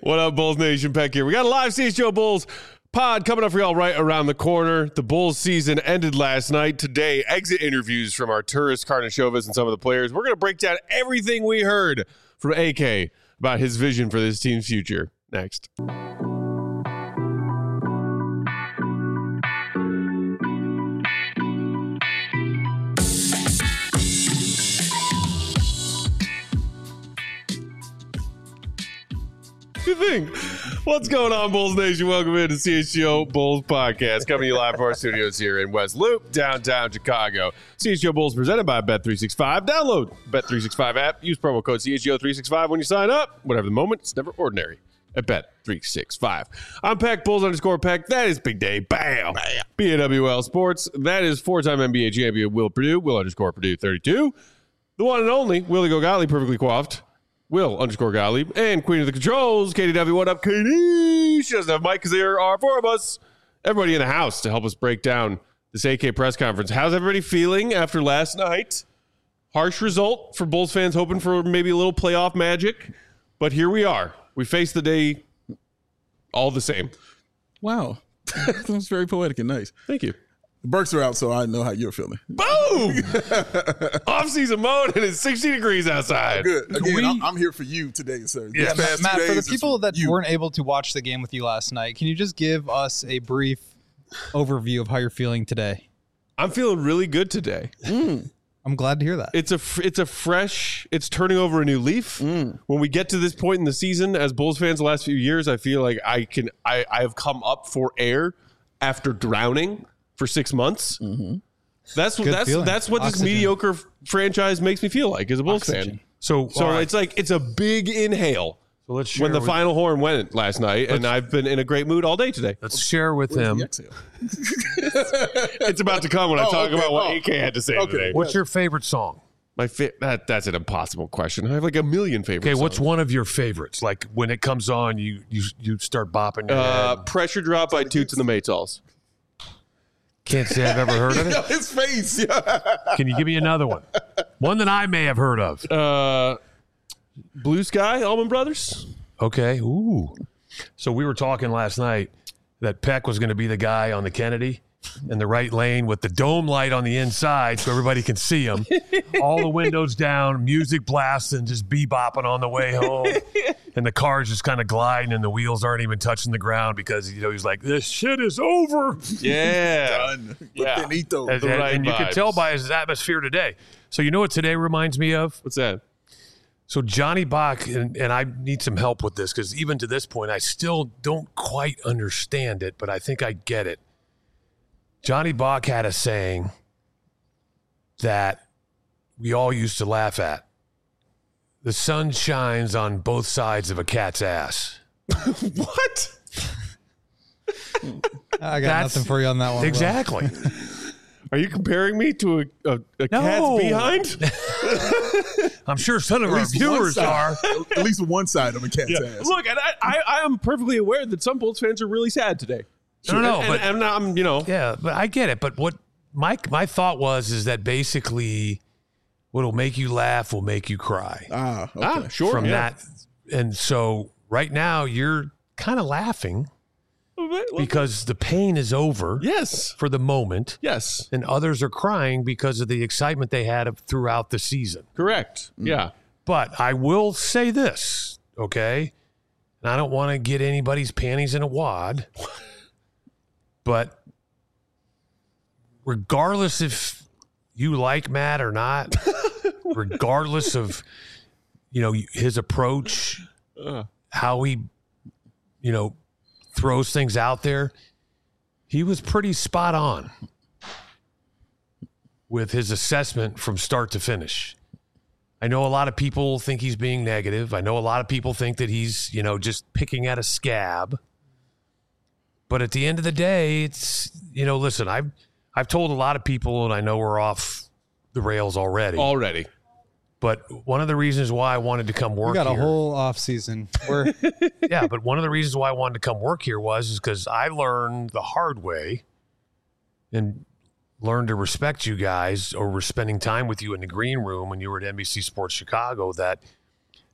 What up, Bulls Nation? Peck here. We got a live CHGO Bulls pod coming up for y'all right around the corner. The Bulls season ended last night. Today, exit interviews from Arturas Karnisovas and some of the players. We're going to break down everything we heard from AK about his vision for this team's future. Next. Good thing. What's going on, Bulls Nation? Welcome into CHGO Bulls podcast, coming to you live from our studios here in West Loop, downtown Chicago. CHGO Bulls presented by Bet365. Download Bet365 app. Use promo code CHGO365 when you sign up. Whatever the moment, it's never ordinary at Bet365. I'm Peck, Bulls _Peck. That is Big Day. Bam. BAWL Sports. That is four-time NBA champion Will Purdue. Will _Purdue 32. The one and only Willie Gogali, perfectly coiffed. Will _Gottlieb, and Queen of the Controls, KDW. What up, Katie? She doesn't have a mic because there are four of us. Everybody in the house to help us break down this AK press conference. How's everybody feeling after last night? Harsh result for Bulls fans hoping for maybe a little playoff magic. But here we are. We face the day all the same. Wow. That was very poetic and nice. Thank you. The Burks are out, so I know how you're feeling. Boom! Off-season mode, and it's 60 degrees outside. Good. Again, I'm here for you today, sir. Yeah, Matt, for the people that weren't able to watch the game with you last night, can you just give us a brief overview of how you're feeling today? I'm feeling really good today. I'm glad to hear that. It's a fresh, it's turning over a new leaf. When we get to this point in the season, as Bulls fans the last few years, I feel like I have come up for air after drowning for 6 months. That's what Oxygen. this mediocre franchise makes me feel like as a Bulls fan. So right. It's like it's a big inhale. So let's share when the final horn went last night, and I've been in a great mood all day today. Let's share with them. It's about to come when I talk about what AK had to say today. What's your favorite song? That's an impossible question. I have like a million favorites. Okay, what's one of your favorites? Like when it comes on, you start bopping your head. Pressure Drop by Toots and the Maytals. Can't say I've ever heard of it. His face. Can you give me another one? One that I may have heard of. Blue Sky, Allman Brothers. Okay. Ooh. So we were talking last night that Peck was going to be the guy on the Kennedy in the right lane with the dome light on the inside so everybody can see him. All the windows down, music blasting, just bebopping on the way home. And the car's just kind of gliding and the wheels aren't even touching the ground because, he's like, this shit is over. Yeah. Done. Yeah. And you can tell by his atmosphere today. So you know what today reminds me of? What's that? So Johnny Bach, and I need some help with this because even to this point, I still don't quite understand it, but I think I get it. Johnny Bach had a saying that we all used to laugh at. The sun shines on both sides of a cat's ass. What? I got nothing for you on that one. Exactly. Are you comparing me to a cat's behind? I'm sure some of our viewers are. At least one side of a cat's ass. Look, and I am perfectly aware that some Bulls fans are really sad today. Yeah, but I get it. But what my thought is that basically what'll make you laugh will make you cry. Okay. Sure. From that. And so right now you're kind of laughing because the pain is over. Yes. For the moment. Yes. And others are crying because of the excitement they had throughout the season. Correct. Yeah. But I will say this, okay? And I don't want to get anybody's panties in a wad. But regardless if you like Matt or not, regardless of, his approach, how he, throws things out there, he was pretty spot on with his assessment from start to finish. I know a lot of people think he's being negative. I know a lot of people think that he's, just picking at a scab. But at the end of the day, it's, listen, I've told a lot of people, and I know we're off the rails already. But one of the reasons why I wanted to come work here. We got a whole off season. Yeah, but one of the reasons why I wanted to come work here was because I learned the hard way and learned to respect you guys over spending time with you in the green room when you were at NBC Sports Chicago, that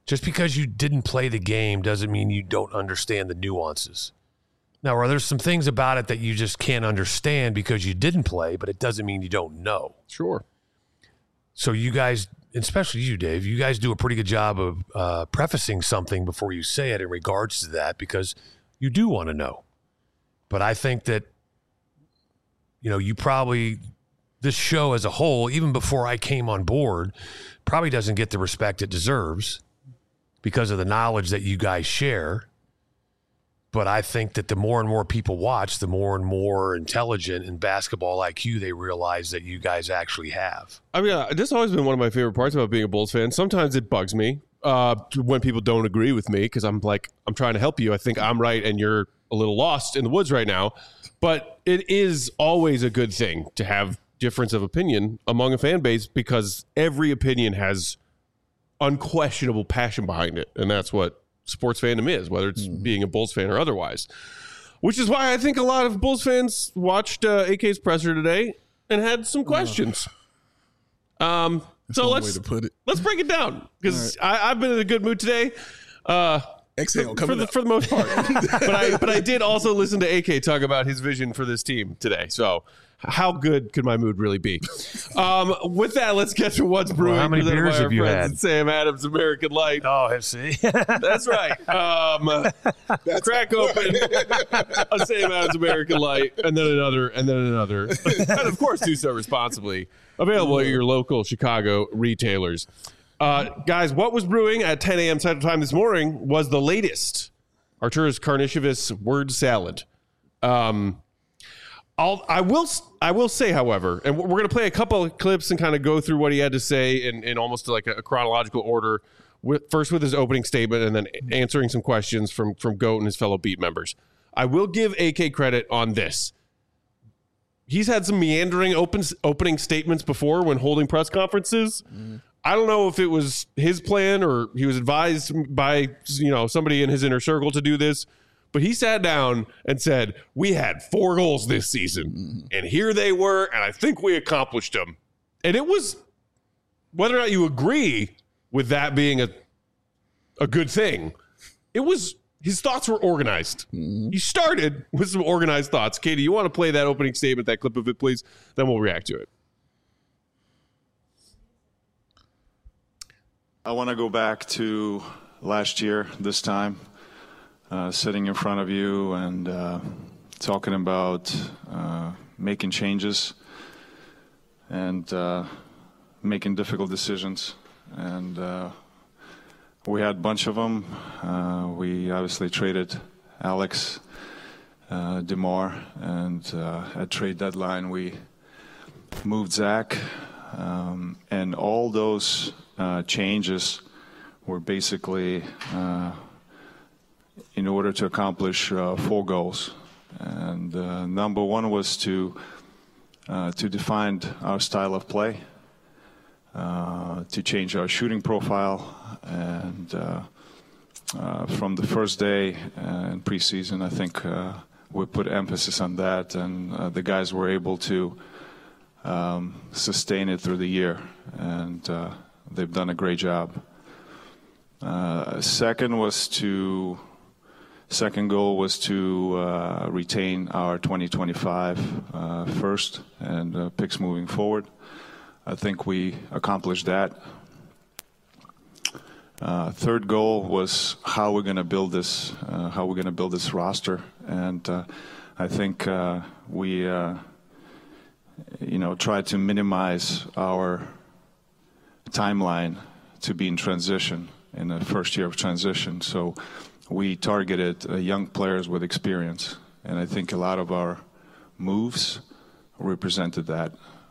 Just because you didn't play the game doesn't mean you don't understand the nuances. Now, are there some things about it that you just can't understand because you didn't play, but it doesn't mean you don't know? Sure. So you guys, especially you, Dave, you guys do a pretty good job of prefacing something before you say it in regards to that because you do want to know. But I think that, you probably, this show as a whole, even before I came on board, probably doesn't get the respect it deserves because of the knowledge that you guys share. But I think that the more and more people watch, the more and more intelligent in basketball IQ they realize that you guys actually have. I mean, this has always been one of my favorite parts about being a Bulls fan. Sometimes it bugs me when people don't agree with me because I'm trying to help you. I think I'm right and you're a little lost in the woods right now. But it is always a good thing to have difference of opinion among a fan base because every opinion has unquestionable passion behind it. And that's what sports fandom is, whether it's being a Bulls fan or otherwise. Which is why I think a lot of Bulls fans watched AK's presser today and had some questions. So let's break it down because I've been in a good mood today. Exhale for the most part. but I did also listen to AK talk about his vision for this team today. So how good could my mood really be? With that, let's get to what's brewing. Well, how many beers have you had? Sam Adams American Light. Oh, I see. That's right. Crack open a Sam Adams American Light, and then another, and of course, do so responsibly. Available at your local Chicago retailers. Guys, what was brewing at 10 a.m. Central Time this morning was the latest Arturas Karnisovas word salad. I will say, however, and we're going to play a couple of clips and kind of go through what he had to say in almost like a chronological order, first with his opening statement and then answering some questions from Goat and his fellow beat members. I will give AK credit on this. He's had some meandering opening statements before when holding press conferences. I don't know if it was his plan or he was advised by somebody in his inner circle to do this. But he sat down and said, we had 4 goals this season, and here they were, and I think we accomplished them. And it was, whether or not you agree with that being a good thing, it was, his thoughts were organized. He started with some organized thoughts. Katie, you want to play that opening statement, that clip of it, please? Then we'll react to it. I want to go back to last year, this time. Sitting in front of you and talking about making changes and making difficult decisions. And we had a bunch of them. We obviously traded Alex DeMar, and at trade deadline we moved Zach. And all those changes were basically in order to accomplish 4 goals. And number one was to define our style of play, to change our shooting profile. And from the first day in preseason, I think we put emphasis on that, and the guys were able to sustain it through the year. And they've done a great job. Second goal was to retain our 2025 first and picks moving forward. I think we accomplished that. Third goal was how we're going to build this, roster, and I think we tried to minimize our timeline to be in transition in the first year of transition. So we targeted young players with experience, and I think a lot of our moves represented that.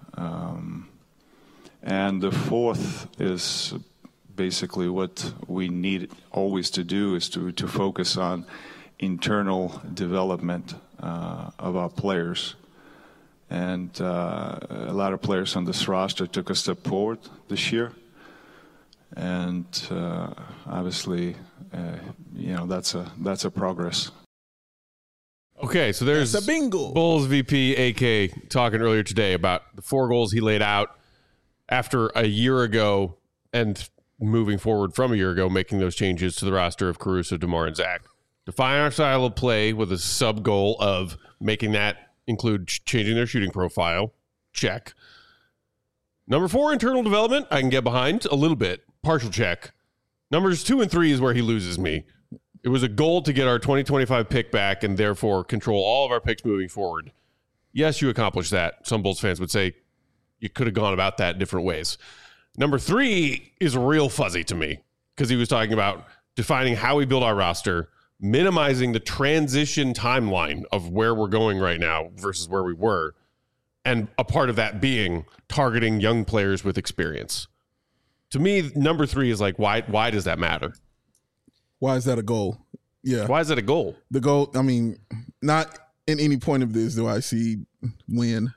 And the fourth is basically what we need always to do is to focus on internal development of our players. And a lot of players on this roster took a step forward this year. And obviously, that's a progress. Okay, so there's a bingo. Bulls VP AK talking earlier today about the 4 goals he laid out after a year ago, and moving forward from a year ago, making those changes to the roster of Caruso, DeMar, and Zach. Define our style of play with a sub goal of making that include changing their shooting profile. Check. Number 4, internal development. I can get behind a little bit. Partial check. Numbers 2 and 3 is where he loses me. It was a goal to get our 2025 pick back and therefore control all of our picks moving forward. Yes, you accomplished that. Some Bulls fans would say you could have gone about that different ways. Number 3 is real fuzzy to me because he was talking about defining how we build our roster, minimizing the transition timeline of where we're going right now versus where we were. And a part of that being targeting young players with experience. To me, number 3 is like, why does that matter? Why is that a goal? Yeah. Why is that a goal? The goal, I mean, not in any point of this do I see win.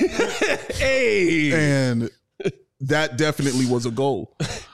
Hey! And that definitely was a goal.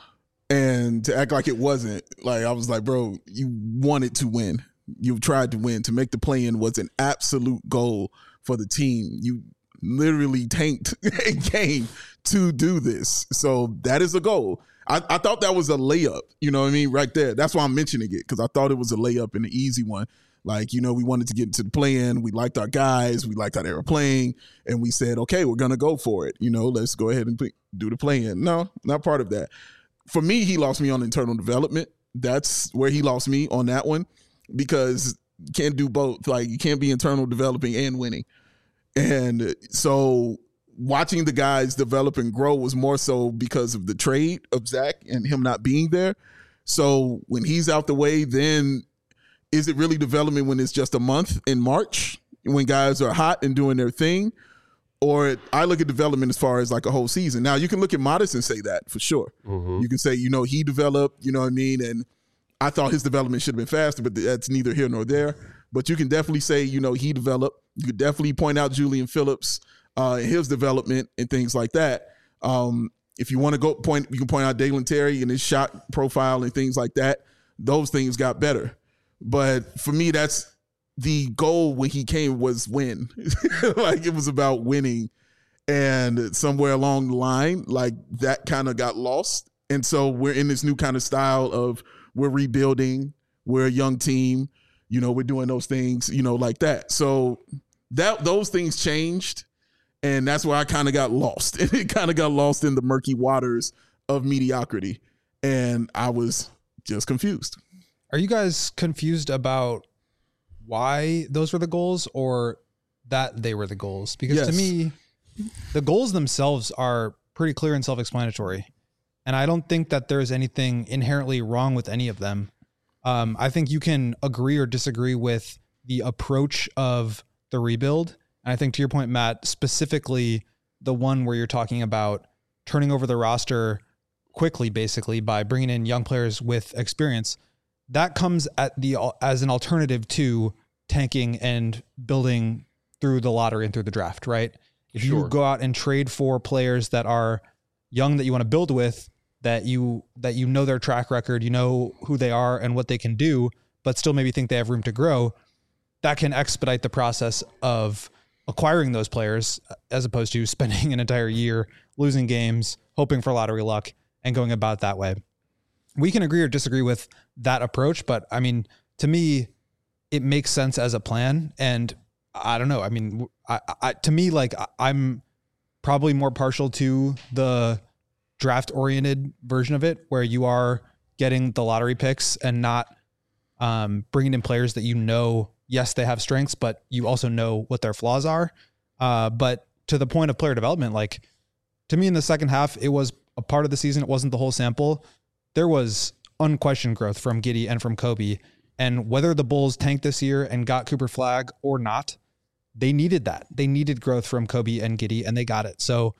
And to act like it wasn't, like I was like, bro, you wanted to win. You tried to win. To make the play-in was an absolute goal for the team. You literally tanked a game to do this. So that is a goal. I thought that was a layup, you know what I mean, right there. That's why I'm mentioning it, because I thought it was a layup and an easy one. Like, you know, we wanted to get into the play-in. We liked our guys. We liked how they were playing. And we said, okay, we're going to go for it. You know, let's go ahead and do the play-in. No, not part of that. For me, he lost me on internal development. That's where he lost me on that one, because you can't do both. Like, you can't be internal developing and winning. And so watching the guys develop and grow was more so because of the trade of Zach and him not being there. So when he's out the way, then is it really development when it's just a month in March when guys are hot and doing their thing? Or I look at development as far as like a whole season. Now, you can look at Modest and say that for sure. Mm-hmm. You can say, you know, he developed, you know what I mean? And I thought his development should have been faster, but that's neither here nor there. But you can definitely say, you know, he developed. You could definitely point out Julian Phillips and his development and things like that. If you want to you can point out Dalen Terry and his shot profile and things like that. Those things got better. But for me, that's the goal when he came was win. Like, it was about winning. And somewhere along the line, like, that kind of got lost. And so we're in this new kind of style of we're rebuilding. We're a young team. You know, we're doing those things, you know, like that. So those things changed. And that's where I kind of got lost. And it kind of got lost in the murky waters of mediocrity. And I was just confused. Are you guys confused about why those were the goals or that they were the goals? Because to me, the goals themselves are pretty clear and self-explanatory. And I don't think that there's anything inherently wrong with any of them. I think you can agree or disagree with the approach of the rebuild. And I think, to your point, Matt, specifically the one where you're talking about turning over the roster quickly, basically by bringing in young players with experience, that comes as an alternative to tanking and building through the lottery and through the draft, right? If you go out and trade for players that are young that you want to build with, that you know their track record, you know who they are and what they can do, but still maybe think they have room to grow, that can expedite the process of acquiring those players as opposed to spending an entire year losing games, hoping for lottery luck, and going about that way. We can agree or disagree with that approach, but I mean, to me, it makes sense as a plan. And I don't know. I mean, to me, like, I'm probably more partial to the draft oriented version of it, where you are getting the lottery picks and not bringing in players that, you know, yes, they have strengths, but you also know what their flaws are. But to the point of player development, like, to me in the second half, it was a part of the season. It wasn't the whole sample. There was unquestioned growth from Giddey and from Kobe. And whether the Bulls tanked this year and got Cooper Flagg or not, they needed that. They needed growth from Kobe and Giddey, and they got it. So,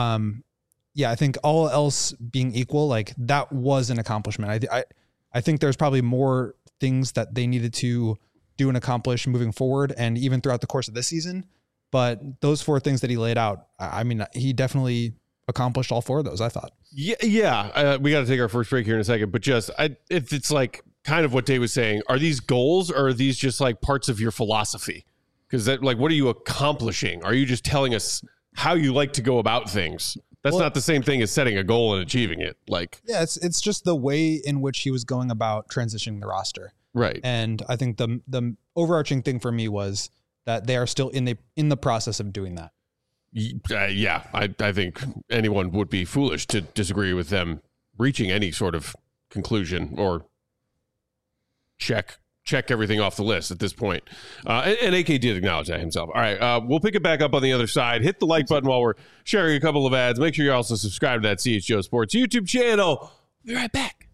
yeah, I think all else being equal, like, that was an accomplishment. I think there's probably more things that they needed to do and accomplish moving forward, and even throughout the course of this season. But those 4 things that he laid out, I mean, he definitely accomplished all 4 of those, I thought. Yeah. We got to take our first break here in a second, but just if it's like kind of what Dave was saying, are these goals or are these just like parts of your philosophy? Because that, like, what are you accomplishing? Are you just telling us how you like to go about things? That's not the same thing as setting a goal and achieving it. Like, yeah, it's just the way in which he was going about transitioning the roster. right. And I think the overarching thing for me was that they are still in the process of doing that. Yeah, I think anyone would be foolish to disagree with them reaching any sort of conclusion or check everything off the list at this point. And AK did acknowledge that himself. All right, we'll pick it back up on the other side. Hit the like button while we're sharing a couple of ads. Make sure you also subscribe to that CHGO Sports YouTube channel. We'll be right back.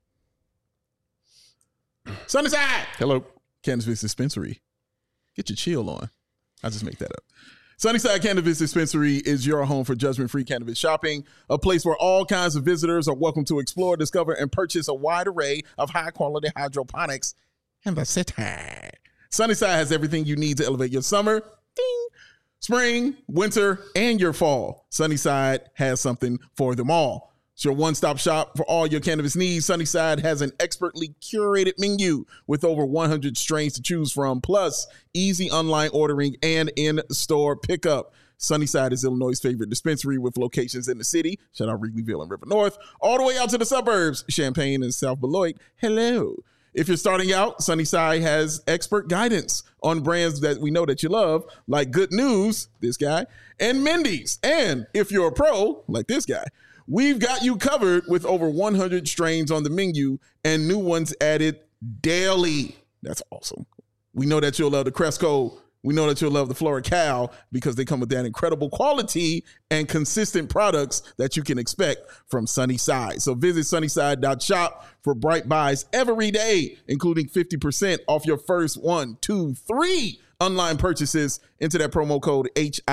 Sunnyside. Hello. Cannabis Dispensary. Get your chill on. I'll just make that up. Sunnyside Cannabis Dispensary is your home for judgment-free cannabis shopping, a place where all kinds of visitors are welcome to explore, discover, and purchase a wide array of high-quality hydroponics in the city. Sunnyside has everything you need to elevate your summer, ding, spring, winter, and your fall. Sunnyside has something for them all. It's your one-stop shop for all your cannabis needs. Sunnyside has an expertly curated menu with over 100 strains to choose from, plus easy online ordering and in-store pickup. Sunnyside is Illinois' favorite dispensary with locations in the city, shout out Wrigleyville and River North, all the way out to the suburbs, Champaign and South Beloit. Hello. If you're starting out, Sunnyside has expert guidance on brands that we know that you love, like Good News, this guy, and Mindy's. And if you're a pro, like this guy, we've got you covered with over 100 strains on the menu and new ones added daily. That's awesome. We know that you'll love the Cresco. We know that you'll love the FloraCal because they come with that incredible quality and consistent products that you can expect from Sunnyside. So visit sunnyside.shop for bright buys every day, including 50% off your first 1, 2, 3 online purchases. Enter that promo code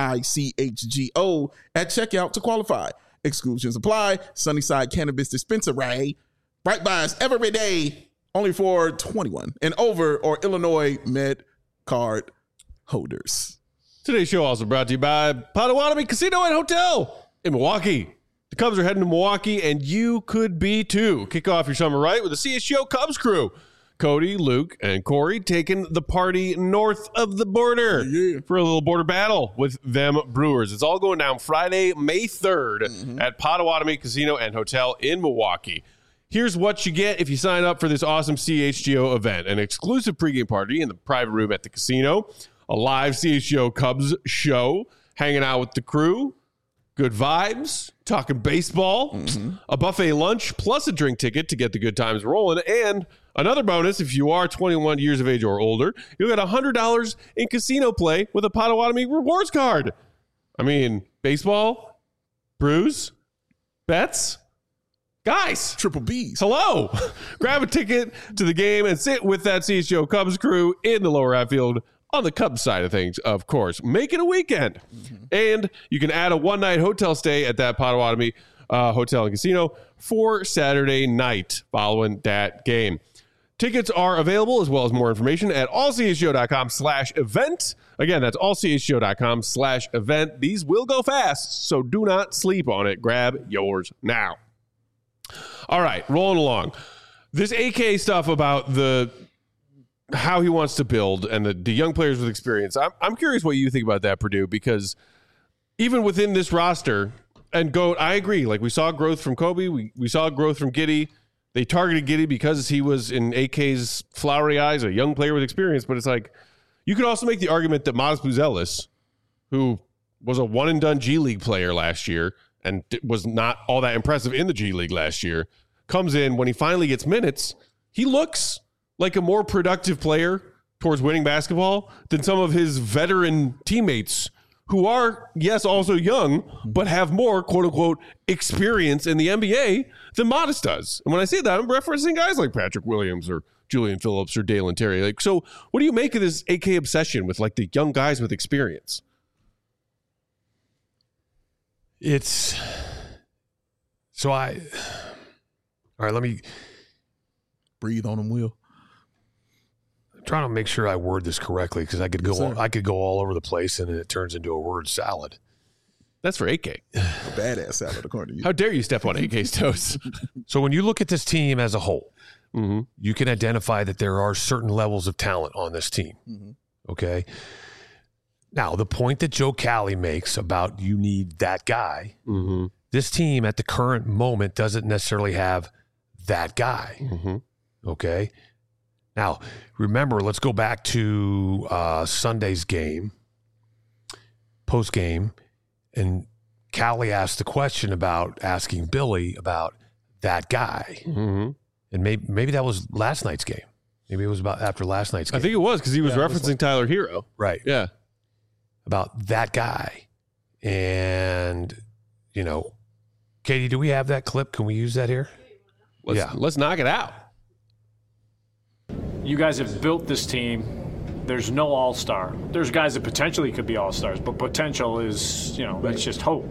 HICHGO at checkout to qualify. Exclusions apply. Sunnyside Cannabis Dispensary. Bright buys every day, only for 21 and over or Illinois Med Card holders. Today's show also brought to you by Potawatomi Casino and Hotel in Milwaukee. The Cubs are heading to Milwaukee, and you could be too. Kick off your summer right with the CHGO Cubs crew. Cody, Luke, and Corey taking the party north of the border for a little border battle with them Brewers. It's all going down Friday, May 3rd at Potawatomi Casino and Hotel in Milwaukee. Here's what you get if you sign up for this awesome CHGO event. An exclusive pregame party in the private room at the casino, a live CHGO Cubs show, hanging out with the crew, good vibes, talking baseball, a buffet lunch, plus a drink ticket to get the good times rolling, and another bonus, if you are 21 years of age or older, you'll get $100 in casino play with a Potawatomi rewards card. I mean, baseball, brews, bets, guys. Triple B's. Hello. Grab a ticket to the game and sit with that CHGO Cubs crew in the lower outfield on the Cubs side of things, of course. Make it a weekend. And you can add a one-night hotel stay at that Potawatomi Hotel and Casino for Saturday night following that game. Tickets are available, as well as more information, at allchgo.com/event. Again, that's allchgo.com/event. These will go fast, so do not sleep on it. Grab yours now. All right, rolling along. This AK stuff about how he wants to build and the young players with experience. I'm curious what you think about that, Purdue, because even within this roster, and Goat, I agree. Like, we saw growth from Kobe. We saw growth from Giddey. They targeted Giddey because he was, in AK's flowery eyes, a young player with experience. But it's like, you could also make the argument that Miles Buzelis, who was a one-and-done G League player last year and was not all that impressive in the G League last year, comes in, when he finally gets minutes, he looks like a more productive player towards winning basketball than some of his veteran teammates who are, yes, also young, but have more, quote-unquote, experience in the NBA than Modest does. And when I say that, I'm referencing guys like Patrick Williams or Julian Phillips or Dalen Terry. Like, so what do you make of this AK obsession with, like, the young guys with experience? All right, let me breathe on them, Will. I'm trying to make sure I word this correctly because I could go all over the place and it turns into a word salad. That's for AK. A badass salad, according to you. How dare you step on AK's toes? So when you look at this team as a whole, you can identify that there are certain levels of talent on this team. Okay. Now, the point that Joe Cali makes about you need that guy, This team at the current moment doesn't necessarily have that guy. Mm-hmm. Okay. Now, remember, let's go back to Sunday's game, post game, and Callie asked the question about asking Billy about that guy. Mm-hmm. And maybe that was last night's game. Maybe it was about after last night's game. I think it was because he was referencing Tyler Hero. Right. Yeah. About that guy. And, Katie, do we have that clip? Can we use that here? Let's knock it out. You guys have built this team. There's no all-star. There's guys that potentially could be all-stars, but potential is, that's just hope.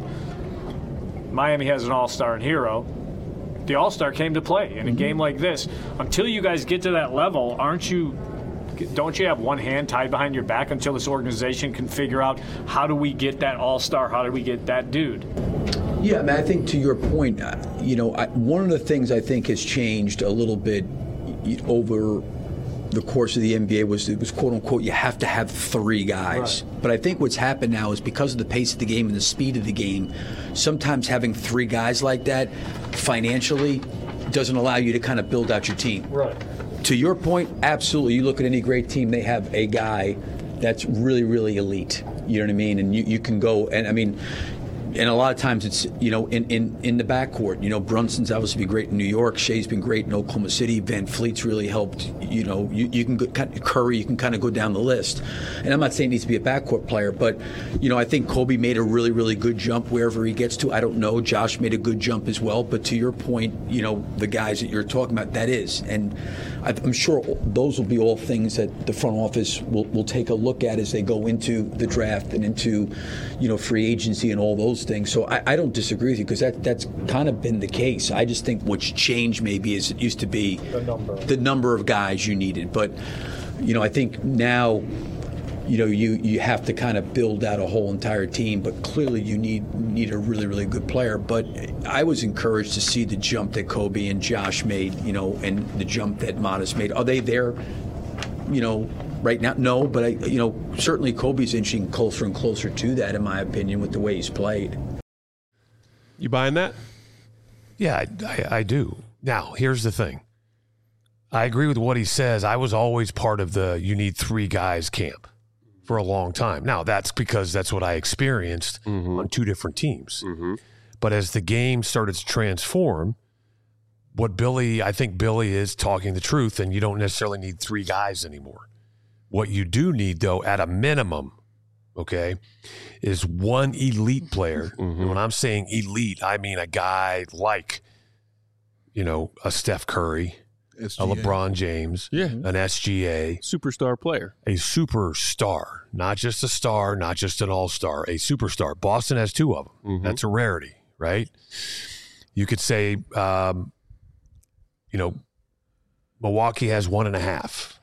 Miami has an all-star in Hero. The all-star came to play in a game like this. Until you guys get to that level, don't you have one hand tied behind your back until this organization can figure out how do we get that all-star, how do we get that dude? Yeah, I think to your point, one of the things I think has changed a little bit over the course of the NBA it was quote unquote you have to have 3 guys. Right. But I think what's happened now is because of the pace of the game and the speed of the game, sometimes having 3 guys like that financially doesn't allow you to kind of build out your team. Right. To your point, absolutely. You look at any great team, they have a guy that's really, really elite. You know what I mean? And you can go and a lot of times it's, in the backcourt. Brunson's obviously been great in New York. Shea's been great in Oklahoma City. Van Fleet's really helped. You can go, Curry, you can kind of go down the list. And I'm not saying he needs to be a backcourt player, but, I think Kobe made a really, really good jump wherever he gets to. I don't know. Josh made a good jump as well. But to your point, the guys that you're talking about, that is. And I'm sure those will be all things that the front office will take a look at as they go into the draft and into, free agency and all those things. So I don't disagree with you because that's kind of been the case. I just think what's changed maybe is it used to be the number of guys you needed. But, I think now, you have to kind of build out a whole entire team. But clearly you need a really, really good player. But I was encouraged to see the jump that Kobe and Josh made, and the jump that Modest made. Are they there, right now? No, but certainly Kobe's inching closer and closer to that, in my opinion, with the way he's played. You buying that? Yeah, I do. Now, here's the thing. I agree with what he says. I was always part of the you need 3 guys camp for a long time. Now, that's because that's what I experienced on 2 different teams. Mm-hmm. But as the game started to transform, I think Billy is talking the truth, and you don't necessarily need 3 guys anymore. What you do need, though, at a minimum, okay, is 1 elite player. Mm-hmm. And when I'm saying elite, I mean a guy like, a Steph Curry, SGA. A LeBron James, an SGA. Superstar player. A superstar. Not just a star, not just an all-star, a superstar. Boston has 2 of them. Mm-hmm. That's a rarity, right? You could say, Milwaukee has 1.5.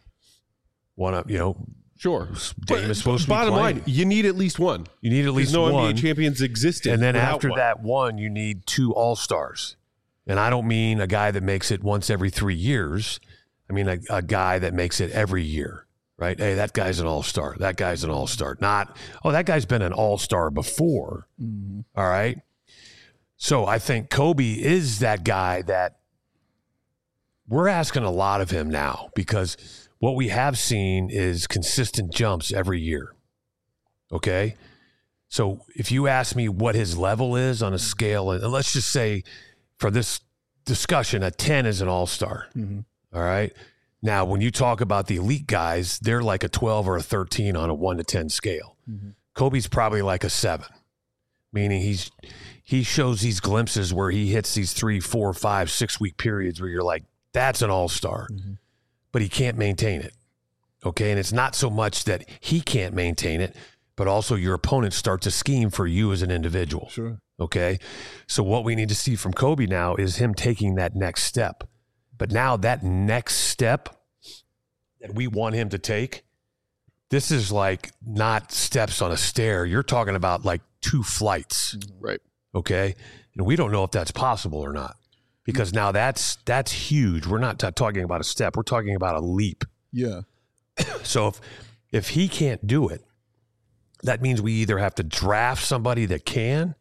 Sure. Dame is supposed to be bottom playing. line, you need at least 1. You need at least no one. NBA champions existed. And then after 1. that 1, you need 2 all-stars. And I don't mean a guy that makes it once every 3 years. I mean a guy that makes it every year, right? Hey, that guy's an all-star. That guy's an all-star. Not, that guy's been an all-star before. Mm-hmm. All right? So I think Kobe is that guy that we're asking a lot of him now because what we have seen is consistent jumps every year. Okay? So if you ask me what his level is on a scale, and let's just say for this discussion, a 10 is an all-star. Mm-hmm. All right? Now, when you talk about the elite guys, they're like a 12 or a 13 on a 1 to 10 scale. Mm-hmm. Kobe's probably like a 7, meaning he shows these glimpses where he hits these 3, 4, 5, 6 week periods where you're like, that's an all-star. Mm-hmm. But he can't maintain it. Okay? And it's not so much that he can't maintain it, but also your opponents start to scheme for you as an individual. Sure. Okay? So what we need to see from Kobe now is him taking that next step. But now that next step that we want him to take, this is like not steps on a stair. You're talking about like 2 flights. Right. Okay? And we don't know if that's possible or not. Because now that's huge. We're not talking about a step. We're talking about a leap. Yeah. So if he can't do it, that means we either have to draft somebody that can,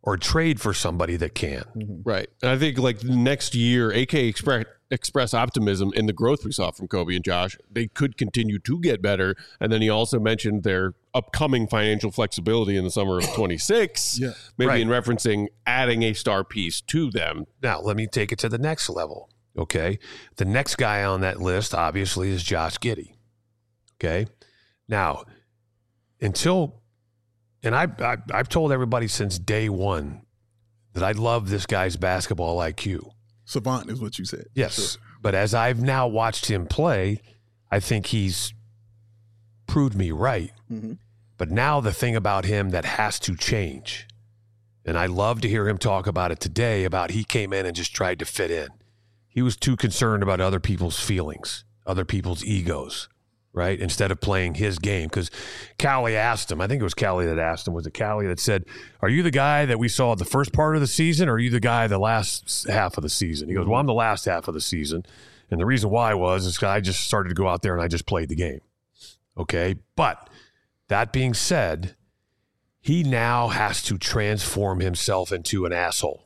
or trade for somebody that can. Right. And I think like next year, AK express optimism in the growth we saw from Kobe and Josh. They could continue to get better. And then he also mentioned their upcoming financial flexibility in the summer of 26, maybe in referencing adding a star piece to them. Now, let me take it to the next level. Okay. The next guy on that list, obviously, is Josh Giddey. Okay. Now, I've told everybody since day one that I love this guy's basketball IQ. Savant is what you said. Yes. Sure. But as I've now watched him play, I think he's proved me right. Mm-hmm. But now the thing about him that has to change, and I love to hear him talk about it today, about he came in and just tried to fit in. He was too concerned about other people's feelings, other people's egos, right? Instead of playing his game. Because Callie asked him, I think it was Callie that asked him, was it Callie that said, are you the guy that we saw the first part of the season, or are you the guy the last half of the season? He goes, well, I'm the last half of the season. And the reason why is I just started to go out there and I just played the game. Okay? But that being said, he now has to transform himself into an asshole.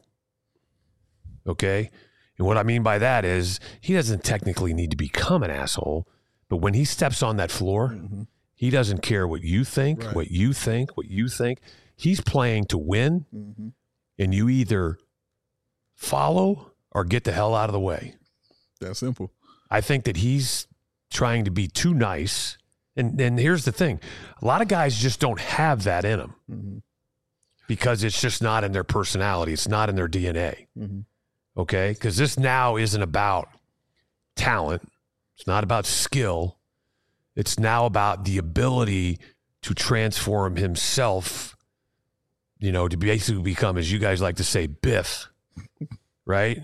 Okay? And what I mean by that is he doesn't technically need to become an asshole, but when he steps on that floor, he doesn't care what you think, what you think. He's playing to win, and you either follow or get the hell out of the way. That's simple. I think that he's trying to be too nice. And here's the thing. A lot of guys just don't have that in them because it's just not in their personality. It's not in their DNA. Okay? Because this now isn't about talent. It's not about skill. It's now about the ability to transform himself, to basically become, as you guys like to say, Biff, right?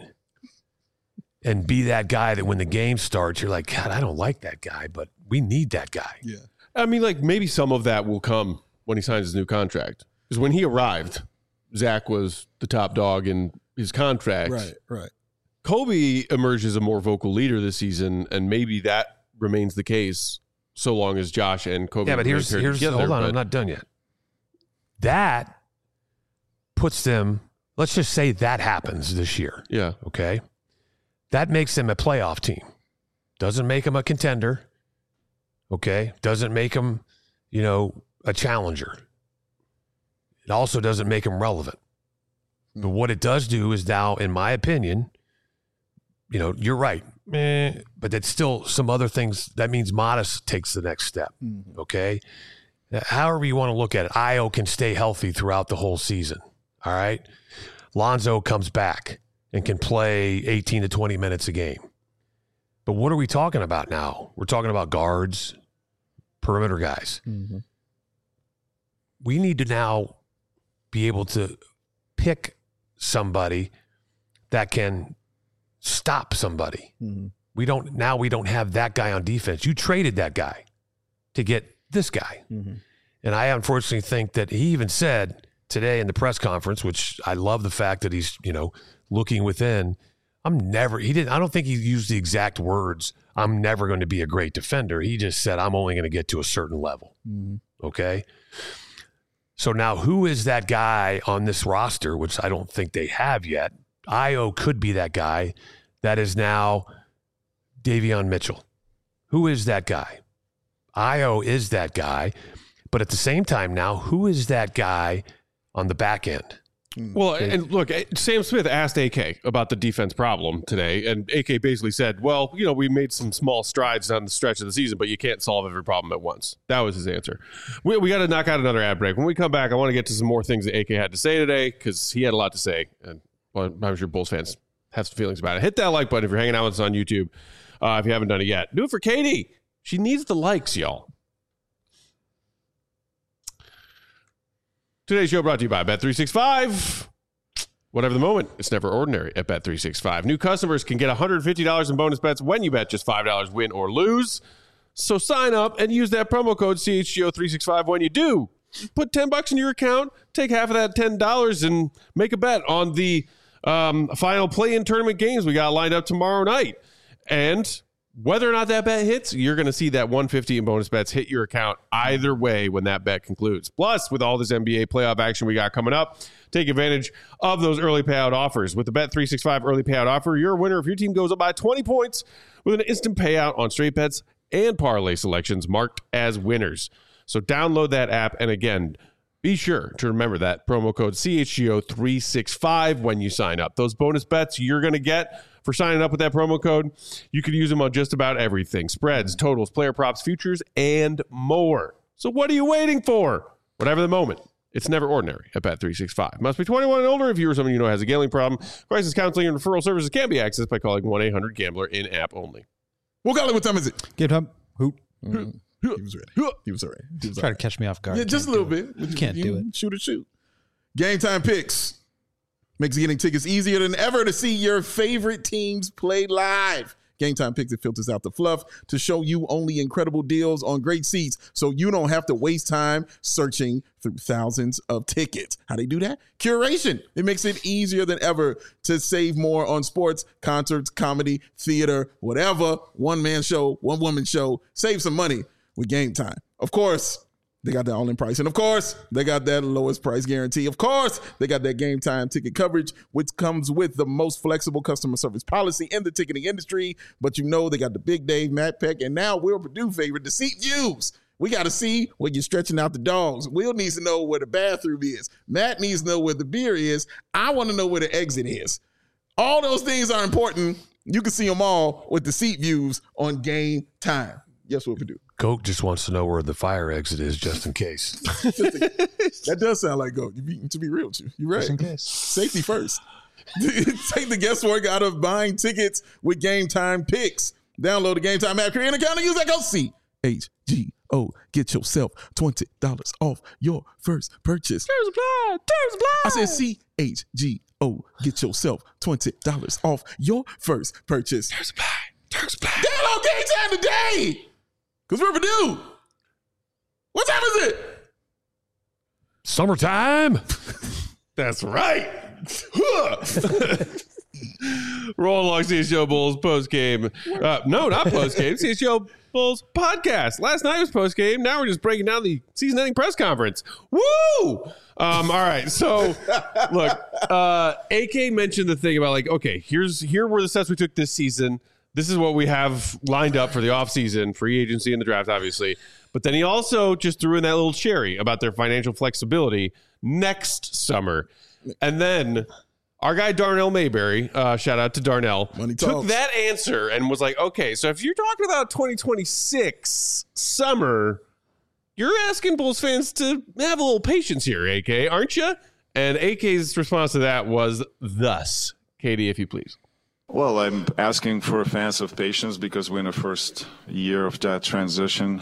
And be that guy that when the game starts, you're like, God, I don't like that guy, but we need that guy. Yeah. I mean, like maybe some of that will come when he signs his new contract. Because when he arrived, Zach was the top dog in his contract. Right. Kobe emerged as a more vocal leader this season, and maybe that remains the case so long as Josh and Kobe. Yeah, but here's together, hold on, I'm not done yet. That puts them. Let's just say that happens this year. Yeah. Okay. That makes them a playoff team. Doesn't make them a contender. Okay. Doesn't make them, a challenger. It also doesn't make them relevant. But what it does do is now, in my opinion, you're right. But that's still some other things. That means Modest takes the next step. Okay. However you want to look at it, Ayo can stay healthy throughout the whole season. All right. Lonzo comes back and can play 18 to 20 minutes a game. But what are we talking about now? We're talking about guards, perimeter guys. We need to now be able to pick somebody that can stop somebody. We don't have that guy on defense. You traded that guy to get this guy. And I unfortunately think that he even said today in the press conference, which I love the fact that he's, looking within. I don't think he used the exact words, I'm never going to be a great defender. He just said, I'm only going to get to a certain level. Okay. So now who is that guy on this roster, which I don't think they have yet? Ayo could be that guy that is now Davion Mitchell. Who is that guy? Ayo is that guy. But at the same time now, who is that guy on the back end? Well, and look, Sam Smith asked AK about the defense problem today, and AK basically said, well, we made some small strides down the stretch of the season, but you can't solve every problem at once. That was his answer. We got to knock out another ad break. When we come back, I want to get to some more things that AK had to say today, because he had a lot to say, and I'm sure Bulls fans have some feelings about it. Hit that like button if you're hanging out with us on YouTube, if you haven't done it yet. Do it for Katie. She needs the likes, y'all. Today's show brought to you by Bet365. Whatever the moment, it's never ordinary at Bet365. New customers can get $150 in bonus bets when you bet just $5 win or lose. So sign up and use that promo code CHGO365 when you do. Put $10 in your account, take half of that $10 and make a bet on the final play-in tournament games we got lined up tomorrow night. And Whether or not that bet hits, you're going to see that 150 in bonus bets hit your account either way when that bet concludes. Plus, with all this NBA playoff action we got coming up, take advantage of those early payout offers. With the Bet365 early payout offer, you're a winner if your team goes up by 20 points with an instant payout on straight bets and parlay selections marked as winners. So download that app, and again, be sure to remember that promo code CHGO365 when you sign up. Those bonus bets you're going to get for signing up with that promo code, you can use them on just about everything. Spreads, totals, player props, futures, and more. So what are you waiting for? Whatever the moment, it's never ordinary at Bet365. Must be 21 and older if you or someone you know has a gambling problem. Crisis counseling and referral services can be accessed by calling 1-800-GAMBLER in-app only. Well, Golly, what time is it? Game time. Hoop. He was ready. He was all right. Try to catch me off guard. Yeah, just a little bit. You can't do it. Shoot. Game time picks makes getting tickets easier than ever to see your favorite teams play live. Game time picks, it filters out the fluff to show you only incredible deals on great seats so you don't have to waste time searching through thousands of tickets. How they do that? Curation. It makes it easier than ever to save more on sports, concerts, comedy, theater, whatever. One-man show, one-woman show. Save some money with Game Time. Of course, they got that all-in price. And of course, they got that lowest price guarantee. Of course, they got that Game Time ticket coverage, which comes with the most flexible customer service policy in the ticketing industry. But you know they got the Big Dave, Matt Peck, and now Will Purdue favorite, the seat views. We got to see where you're stretching out the dogs. Will needs to know where the bathroom is. Matt needs to know where the beer is. I want to know where the exit is. All those things are important. You can see them all with the seat views on Game Time. Yes, Will Purdue. Goat just wants to know where the fire exit is just in case. That does sound like Goat. To be real with you. You're right. Just in case. Safety first. Take the guesswork out of buying tickets with Game Time picks. Download the Game Time app, create an account, and use that code CHGO. Get yourself $20 off your first purchase. Terms apply. I said CHGO. Get yourself $20 off your first purchase. Terms apply. Download Game Time today. Because we're Purdue. What time is it? Summertime. That's right. Rolling along CHGO Bulls post-game. No, not post-game. CHGO Bulls podcast. Last night was post-game. Now we're just breaking down the season-ending press conference. Woo! All right. So, look, AK mentioned the thing about like, okay, here were the steps we took this season. This is what we have lined up for the offseason, free agency and the draft, obviously. But then he also just threw in that little cherry about their financial flexibility next summer. And then our guy Darnell Mayberry, shout out to Darnell, took that answer and was like, okay, so if you're talking about 2026 summer, you're asking Bulls fans to have a little patience here, AK, aren't you? And AK's response to that was thus. Katie, if you please. Well, I'm asking for fans of patience because we're in the first year of that transition.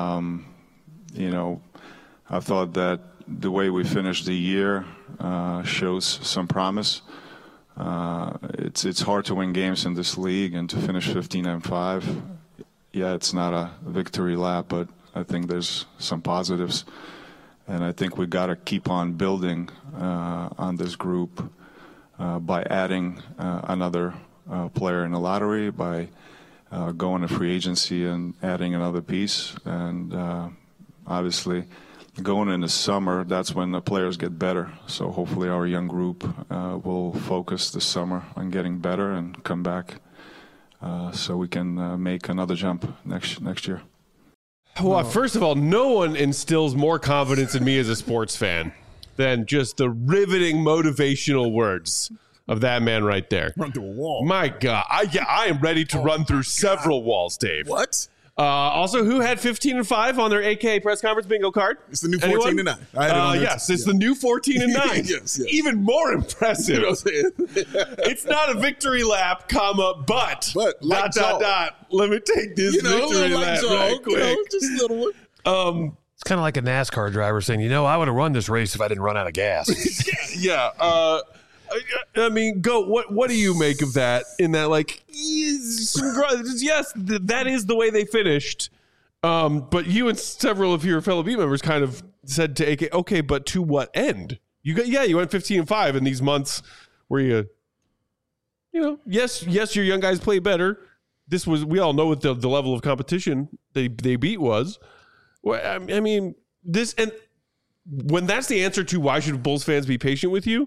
I thought that the way we finished the year shows some promise. It's hard to win games in this league and to finish 15-5. Yeah, it's not a victory lap, but I think there's some positives. And I think we got to keep on building on this group by adding another player in the lottery, by going to free agency and adding another piece. And obviously, going in the summer, that's when the players get better. So hopefully our young group will focus this summer on getting better and come back so we can make another jump next year. Well, first of all, no one instills more confidence in me as a sports fan than just the riveting motivational words of that man right there. Run through a wall. My God. I am ready to run through several walls, Dave. What? Also, who had 15-5 on their AK press conference bingo card? It's the new 14-9. Yes, it's the new 14-9. Yes. Even more impressive. You know what I'm saying? It's not a victory lap, but like let me take this victory lap right quick. Just a little one. It's kind of like a NASCAR driver saying, I would have run this race if I didn't run out of gas. Yeah. I mean, what do you make of that? In that, like, yes, that is the way they finished. But you and several of your fellow beat members kind of said to AK, okay, but to what end? You went 15-5 in these months where yes, your young guys play better, this was, we all know what the level of competition they beat was. Well, I mean, this, and when that's the answer to why should Bulls fans be patient with you,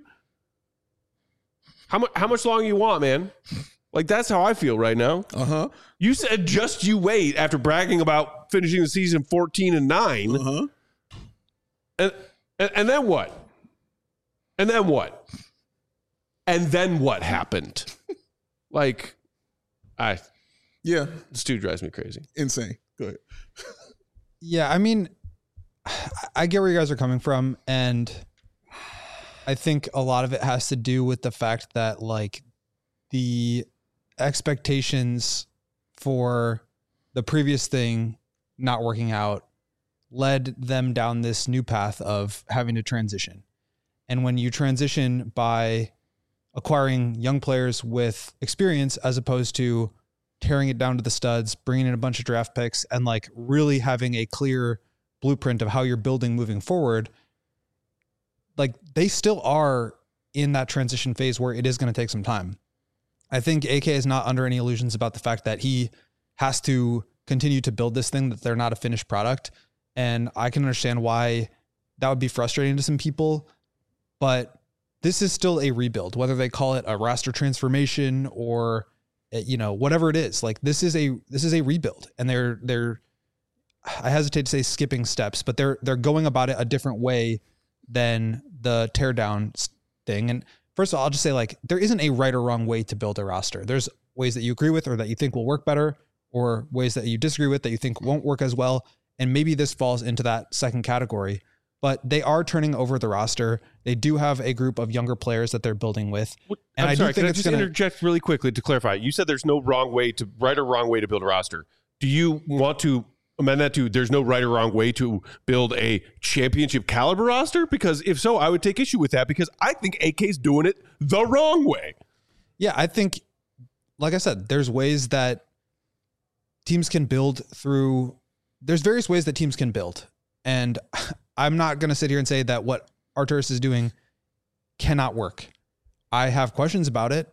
how much longer you want, man? Like, that's how I feel right now. Uh-huh. You said just you wait after bragging about finishing the season 14-9. Uh-huh. And then what? And then what? And then what happened? Like, this dude drives me crazy. Insane. Go ahead. Yeah, I mean, I get where you guys are coming from, and I think a lot of it has to do with the fact that, like, the expectations for the previous thing not working out led them down this new path of having to transition. And when you transition by acquiring young players with experience as opposed to tearing it down to the studs, bringing in a bunch of draft picks, and like really having a clear blueprint of how you're building moving forward, like they still are in that transition phase where it is going to take some time. I think AK is not under any illusions about the fact that he has to continue to build this thing, that they're not a finished product. And I can understand why that would be frustrating to some people, but this is still a rebuild, whether they call it a roster transformation or, you know, whatever it is. Like, this is a rebuild, and they're I hesitate to say skipping steps, but they're going about it a different way than the teardown thing. And first of all, I'll just say, like, there isn't a right or wrong way to build a roster. There's ways that you agree with or that you think will work better, or ways that you disagree with that you think won't work as well. And maybe this falls into that second category, but they are turning over the roster. They do have a group of younger players that they're building with. And I'm sorry, can I just interject really quickly to clarify? You said there's no right or wrong way to build a roster. Do you want to amend that to there's no right or wrong way to build a championship caliber roster? Because if so, I would take issue with that, because I think AK's doing it the wrong way. Yeah, I think, like I said, there's ways that teams can build through. There's various ways that teams can build. And I'm not going to sit here and say that what Arturas is doing cannot work. I have questions about it.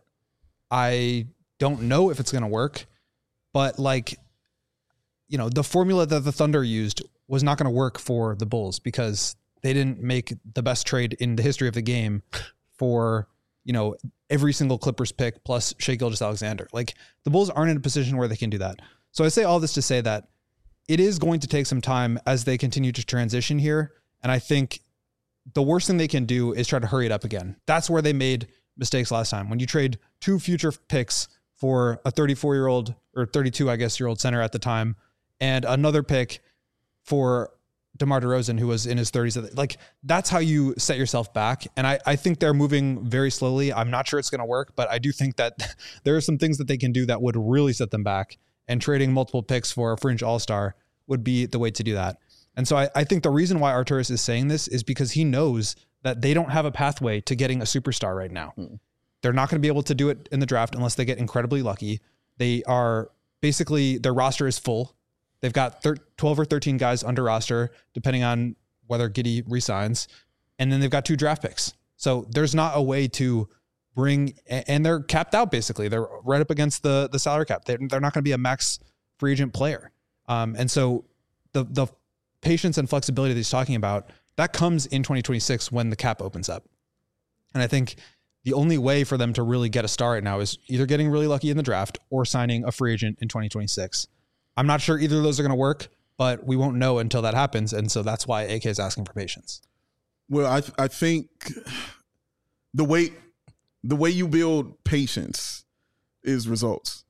I don't know if it's going to work, but, like, you know, the formula that the Thunder used was not going to work for the Bulls because they didn't make the best trade in the history of the game for, you know, every single Clippers pick plus Shai Gilgeous-Alexander. Like, the Bulls aren't in a position where they can do that. So I say all this to say that it is going to take some time as they continue to transition here. And I think the worst thing they can do is try to hurry it up again. That's where they made mistakes last time. When you trade 2 future picks for a 34-year-old or 32, I guess, year old center at the time, and another pick for DeMar DeRozan, who was in his 30s. Like, that's how you set yourself back. And I think they're moving very slowly. I'm not sure it's going to work, but I do think that there are some things that they can do that would really set them back. And trading multiple picks for a fringe all-star would be the way to do that. And so I think the reason why Arturas is saying this is because he knows that they don't have a pathway to getting a superstar right now. They're not going to be able to do it in the draft unless they get incredibly lucky. They are basically, their roster is full. They've got 12 or 13 guys under roster, depending on whether Giddey resigns. And then they've got 2 draft picks. So there's not a way to bring, and they're capped out basically. They're right up against the salary cap. They're not going to be a max free agent player. And so the patience and flexibility that he's talking about, that comes in 2026 when the cap opens up. And I think the only way for them to really get a star right now is either getting really lucky in the draft or signing a free agent in 2026. I'm not sure either of those are going to work, but we won't know until that happens. And so that's why AK is asking for patience. Well, I think the way you build patience is results.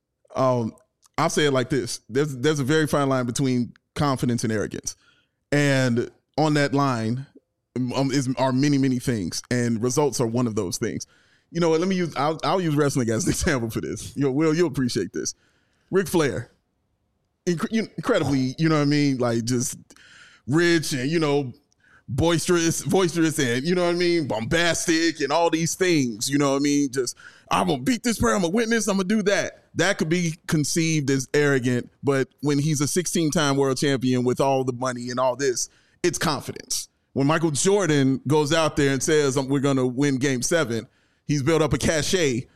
I'll say it like this. There's a very fine line between confidence and arrogance. And on that line are many, many things. And results are one of those things. You know what? I'll use wrestling as an example for this. You'll appreciate this. Ric Flair. Incredibly, you know what I mean? Like, just rich and, you know, boisterous and, you know what I mean, bombastic and all these things, you know what I mean? Just, I'm going to beat this player, I'm going to win this, I'm going to do that. That could be conceived as arrogant, but when he's a 16-time world champion with all the money and all this, it's confidence. When Michael Jordan goes out there and says, we're going to win Game 7, he's built up a cachet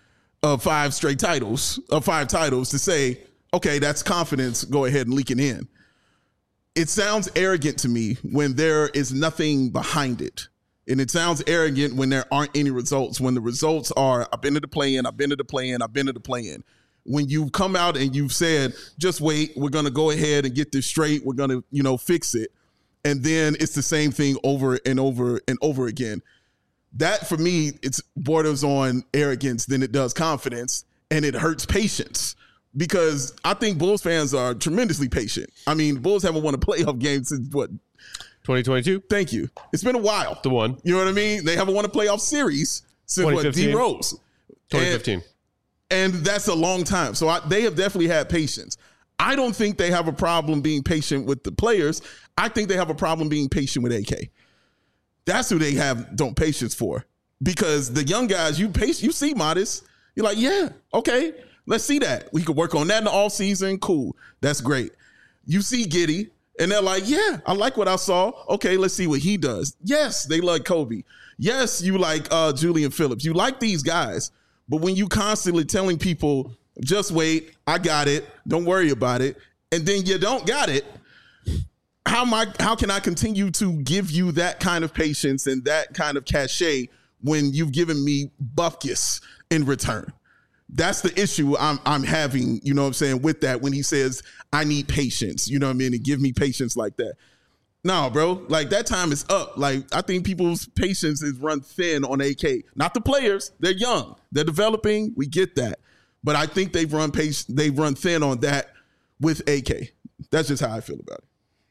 of 5 titles to say, okay, that's confidence. Go ahead and leak it in. It sounds arrogant to me when there is nothing behind it. And it sounds arrogant when there aren't any results, when the results are, I've been to the play-in, I've been to the play-in, I've been to the play-in. When you've come out and you've said, just wait, we're going to go ahead and get this straight. We're going to, fix it. And then it's the same thing over and over and over again. That, for me, it's borders on arrogance than it does confidence, and it hurts patience. Because I think Bulls fans are tremendously patient. I mean, Bulls haven't won a playoff game since, 2022? Thank you. It's been a while. The one. You know what I mean? They haven't won a playoff series since D Rose. 2015. And that's a long time. So they have definitely had patience. I don't think they have a problem being patient with the players. I think they have a problem being patient with AK. That's who they don't patience for. Because the young guys, you see Modest. You're like, yeah, okay, let's see that. We could work on that in the offseason. Cool. That's great. You see Giddey. And they're like, yeah, I like what I saw. Okay, let's see what he does. Yes, they like Kobe. Yes, you like Julian Phillips. You like these guys. But when you constantly telling people, just wait, I got it, don't worry about it, and then you don't got it, how can I continue to give you that kind of patience and that kind of cachet when you've given me bupkis in return? That's the issue I'm having, you know what I'm saying, with that when he says, I need patience, you know what I mean, and give me patience like that. No, bro, like that time is up. Like I think people's patience is run thin on AK. Not the players. They're young. They're developing. We get that. But I think they've run thin on that with AK. That's just how I feel about it.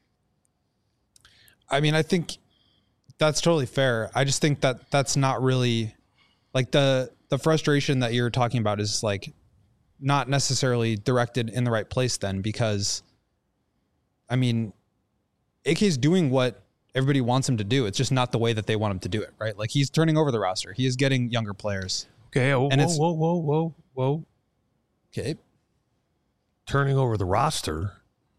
I mean, I think that's totally fair. I just think that that's not really like the frustration that you're talking about is like not necessarily directed in the right place then, because I mean, AK's doing what everybody wants him to do. It's just not the way that they want him to do it, right? Like he's turning over the roster. He is getting younger players. Okay. Whoa. Okay. Turning over the roster.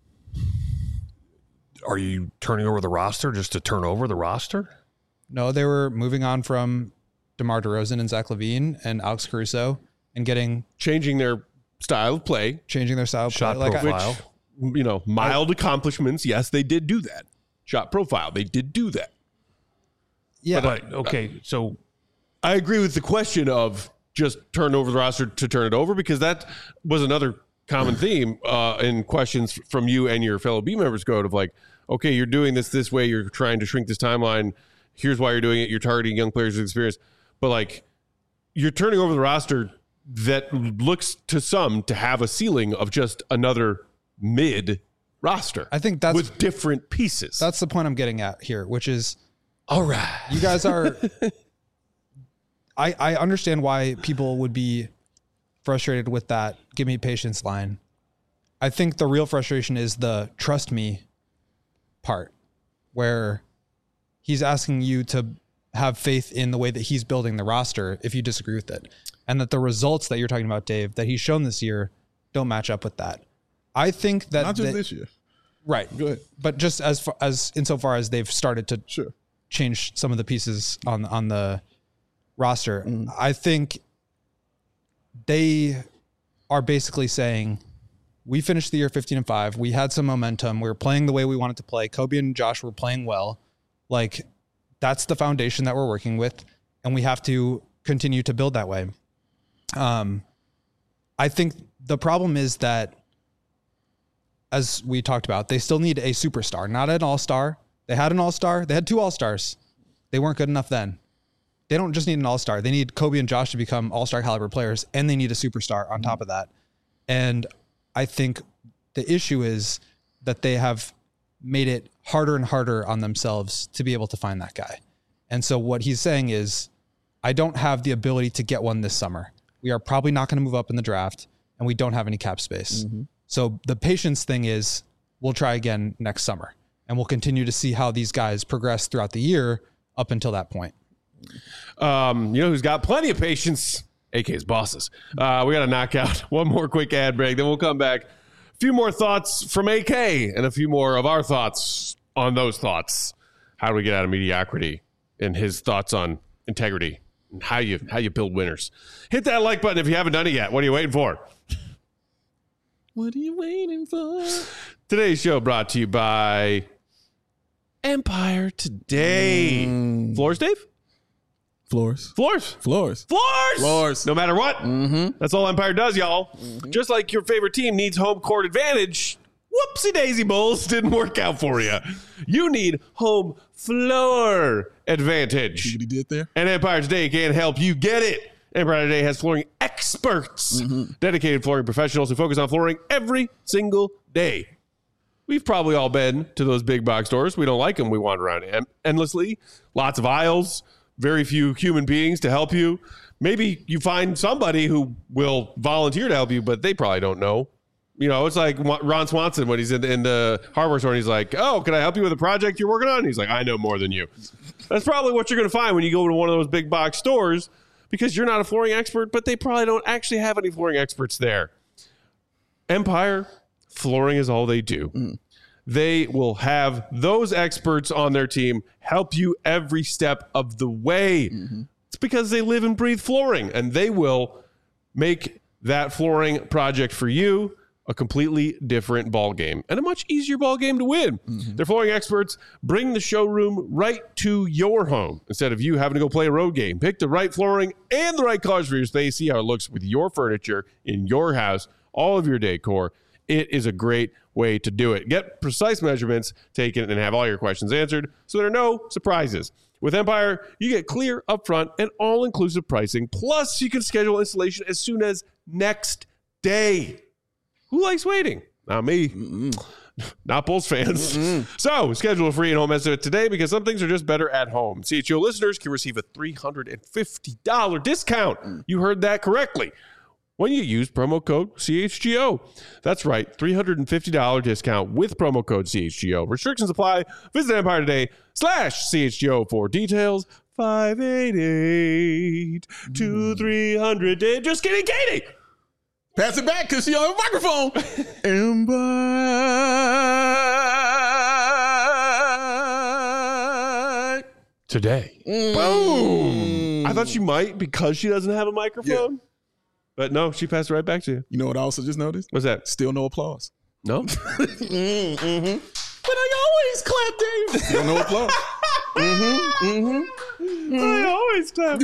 Are you turning over the roster just to turn over the roster? No, they were moving on from DeMar DeRozan and Zach LaVine and Alex Caruso and changing their style of play. Shot profile. Which, mild accomplishments. Yes, they did do that. Shot profile. They did do that. Yeah. But okay, so I agree with the question of just turn over the roster to turn it over, because that was another common theme in questions from you and your fellow B members code of like, okay, you're doing this way. You're trying to shrink this timeline. Here's why you're doing it. You're targeting young players with experience. But like, you're turning over the roster that looks to some to have a ceiling of just another mid roster. I think that's with different pieces. That's the point I'm getting at here, which is, all right, you guys are, I understand why people would be frustrated with that give me patience line. I think the real frustration is the trust me part, where he's asking you to have faith in the way that he's building the roster if you disagree with it. And that the results that you're talking about, Dave, that he's shown this year don't match up with that. I think that not just this year. Right. Go ahead. But just as insofar as they've started to change some of the pieces on the roster, I think they are basically saying, we finished the year 15-5. We had some momentum. We were playing the way we wanted to play. Kobe and Josh were playing well. Like, that's the foundation that we're working with, and we have to continue to build that way. I think the problem is that, as we talked about, they still need a superstar, not an all-star. They had an all-star. They had 2 all-stars. They weren't good enough then. They don't just need an all-star. They need Kobe and Josh to become all-star caliber players, and they need a superstar on top of that. And I think the issue is that they have made it harder and harder on themselves to be able to find that guy. And so what he's saying is, I don't have the ability to get one this summer. We are probably not going to move up in the draft, and we don't have any cap space. So the patience thing is, we'll try again next summer, and we'll continue to see how these guys progress throughout the year up until that point. You know who's got plenty of patience? AK's bosses. We got to knock out one more quick ad break, then we'll come back. A few more thoughts from AK and a few more of our thoughts on those thoughts. How do we get out of mediocrity? And his thoughts on integrity and how you build winners. Hit that like button if you haven't done it yet. What are you waiting for? What are you waiting for? Today's show brought to you by Empire Today. Floors, Dave? Floors. No matter what. That's all Empire does, y'all. Just like your favorite team needs home court advantage. Whoopsie daisy, Bulls. Didn't work out for you. You need home floor advantage. See what he did there? And Empire Today can help you get it. Empire Today has flooring experts, dedicated flooring professionals who focus on flooring every single day. We've probably all been to those big box stores. We don't like them. We wander around endlessly. Lots of aisles. Very few human beings to help you. Maybe you find somebody who will volunteer to help you, but they probably don't know. You know, it's like Ron Swanson when he's in the hardware store and he's like, oh, can I help you with a project you're working on? And he's like, I know more than you. That's probably what you're going to find when you go to one of those big box stores because you're not a flooring expert, but they probably don't actually have any flooring experts there. Empire, flooring is all they do. They will have those experts on their team help you every step of the way. It's because they live and breathe flooring, and they will make that flooring project for you a completely different ball game and a much easier ball game to win. Their flooring experts bring the showroom right to your home instead of you having to go play a road game. Pick the right flooring and the right colors for your space. See how it looks with your furniture in your house, all of your decor. It is a great way to do it. Get precise measurements taken and have all your questions answered so there are no surprises. With Empire, you get clear, upfront, and all-inclusive pricing. Plus, you can schedule installation as soon as next day. Who likes waiting? Not me. Not Bulls fans. So, schedule a free in-home estimate today because some things are just better at home. CHGO listeners can receive a $350 discount. You heard that correctly. When you use promo code CHGO. That's right, $350 discount with promo code CHGO. Restrictions apply. Visit Empire Today/CHGO for details. 588-2300. Just kidding, Katie. Pass it back because she on a microphone. Empire Today. Boom. I thought she might because she doesn't have a microphone. Yeah. But no, she passed it right back to you. You know what I also just noticed? What's that? Still no applause. No? But I always clap, Dave. Still no applause. I always clap.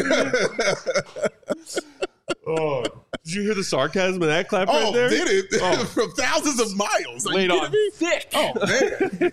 Oh, did you hear the sarcasm in that clap right there? Did it? Oh. From thousands of miles. Laid on thick. Oh, man.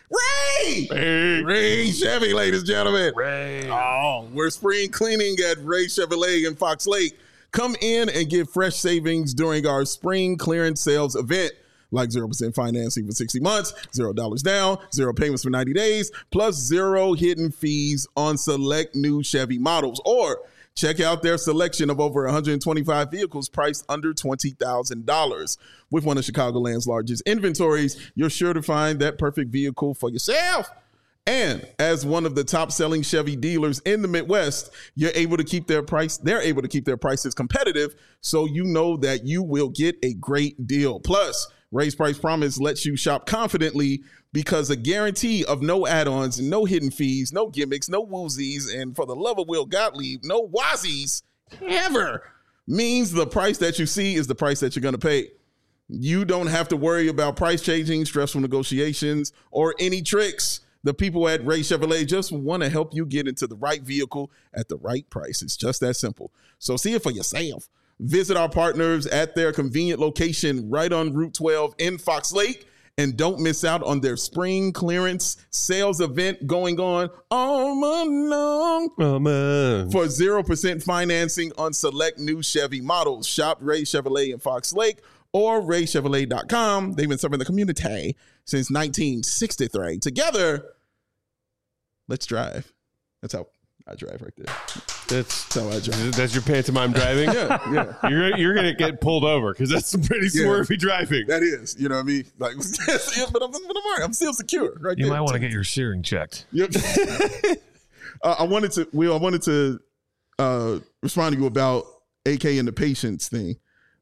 Ray Chevy, ladies and gentlemen. Ray. Oh, we're spring cleaning at Ray Chevrolet in Fox Lake. Come in and get fresh savings during our spring clearance sales event, like 0% financing for 60 months, $0 down, 0 payments for 90 days, plus 0 hidden fees on select new Chevy models. Or check out their selection of over 125 vehicles priced under $20,000. With one of Chicagoland's largest inventories, you're sure to find that perfect vehicle for yourself. And as one of the top-selling Chevy dealers in the Midwest, they're able to keep their prices competitive, so you know that you will get a great deal. Plus, Ray's Price Promise lets you shop confidently because a guarantee of no add-ons, no hidden fees, no gimmicks, no woozies, and for the love of Will Gottlieb, no wazies ever means the price that you see is the price that you're going to pay. You don't have to worry about price changing, stressful negotiations, or any tricks. The people at Ray Chevrolet just want to help you get into the right vehicle at the right price. It's just that simple. So see it for yourself. Visit our partners at their convenient location right on Route 12 in Fox Lake. And don't miss out on their spring clearance sales event going on all month long. For 0% financing on select new Chevy models. Shop Ray Chevrolet in Fox Lake or raychevrolet.com. They've been serving the community since 1963. Together, let's drive. That's how I drive right there. That's how I drive. That's your pantomime driving? Yeah. You're going to get pulled over because that's some pretty swervy driving. That is. You know what I mean? Like, but I'm still secure right there. You might want to get your steering checked. Yep. I wanted to respond to you about AK and the patience thing.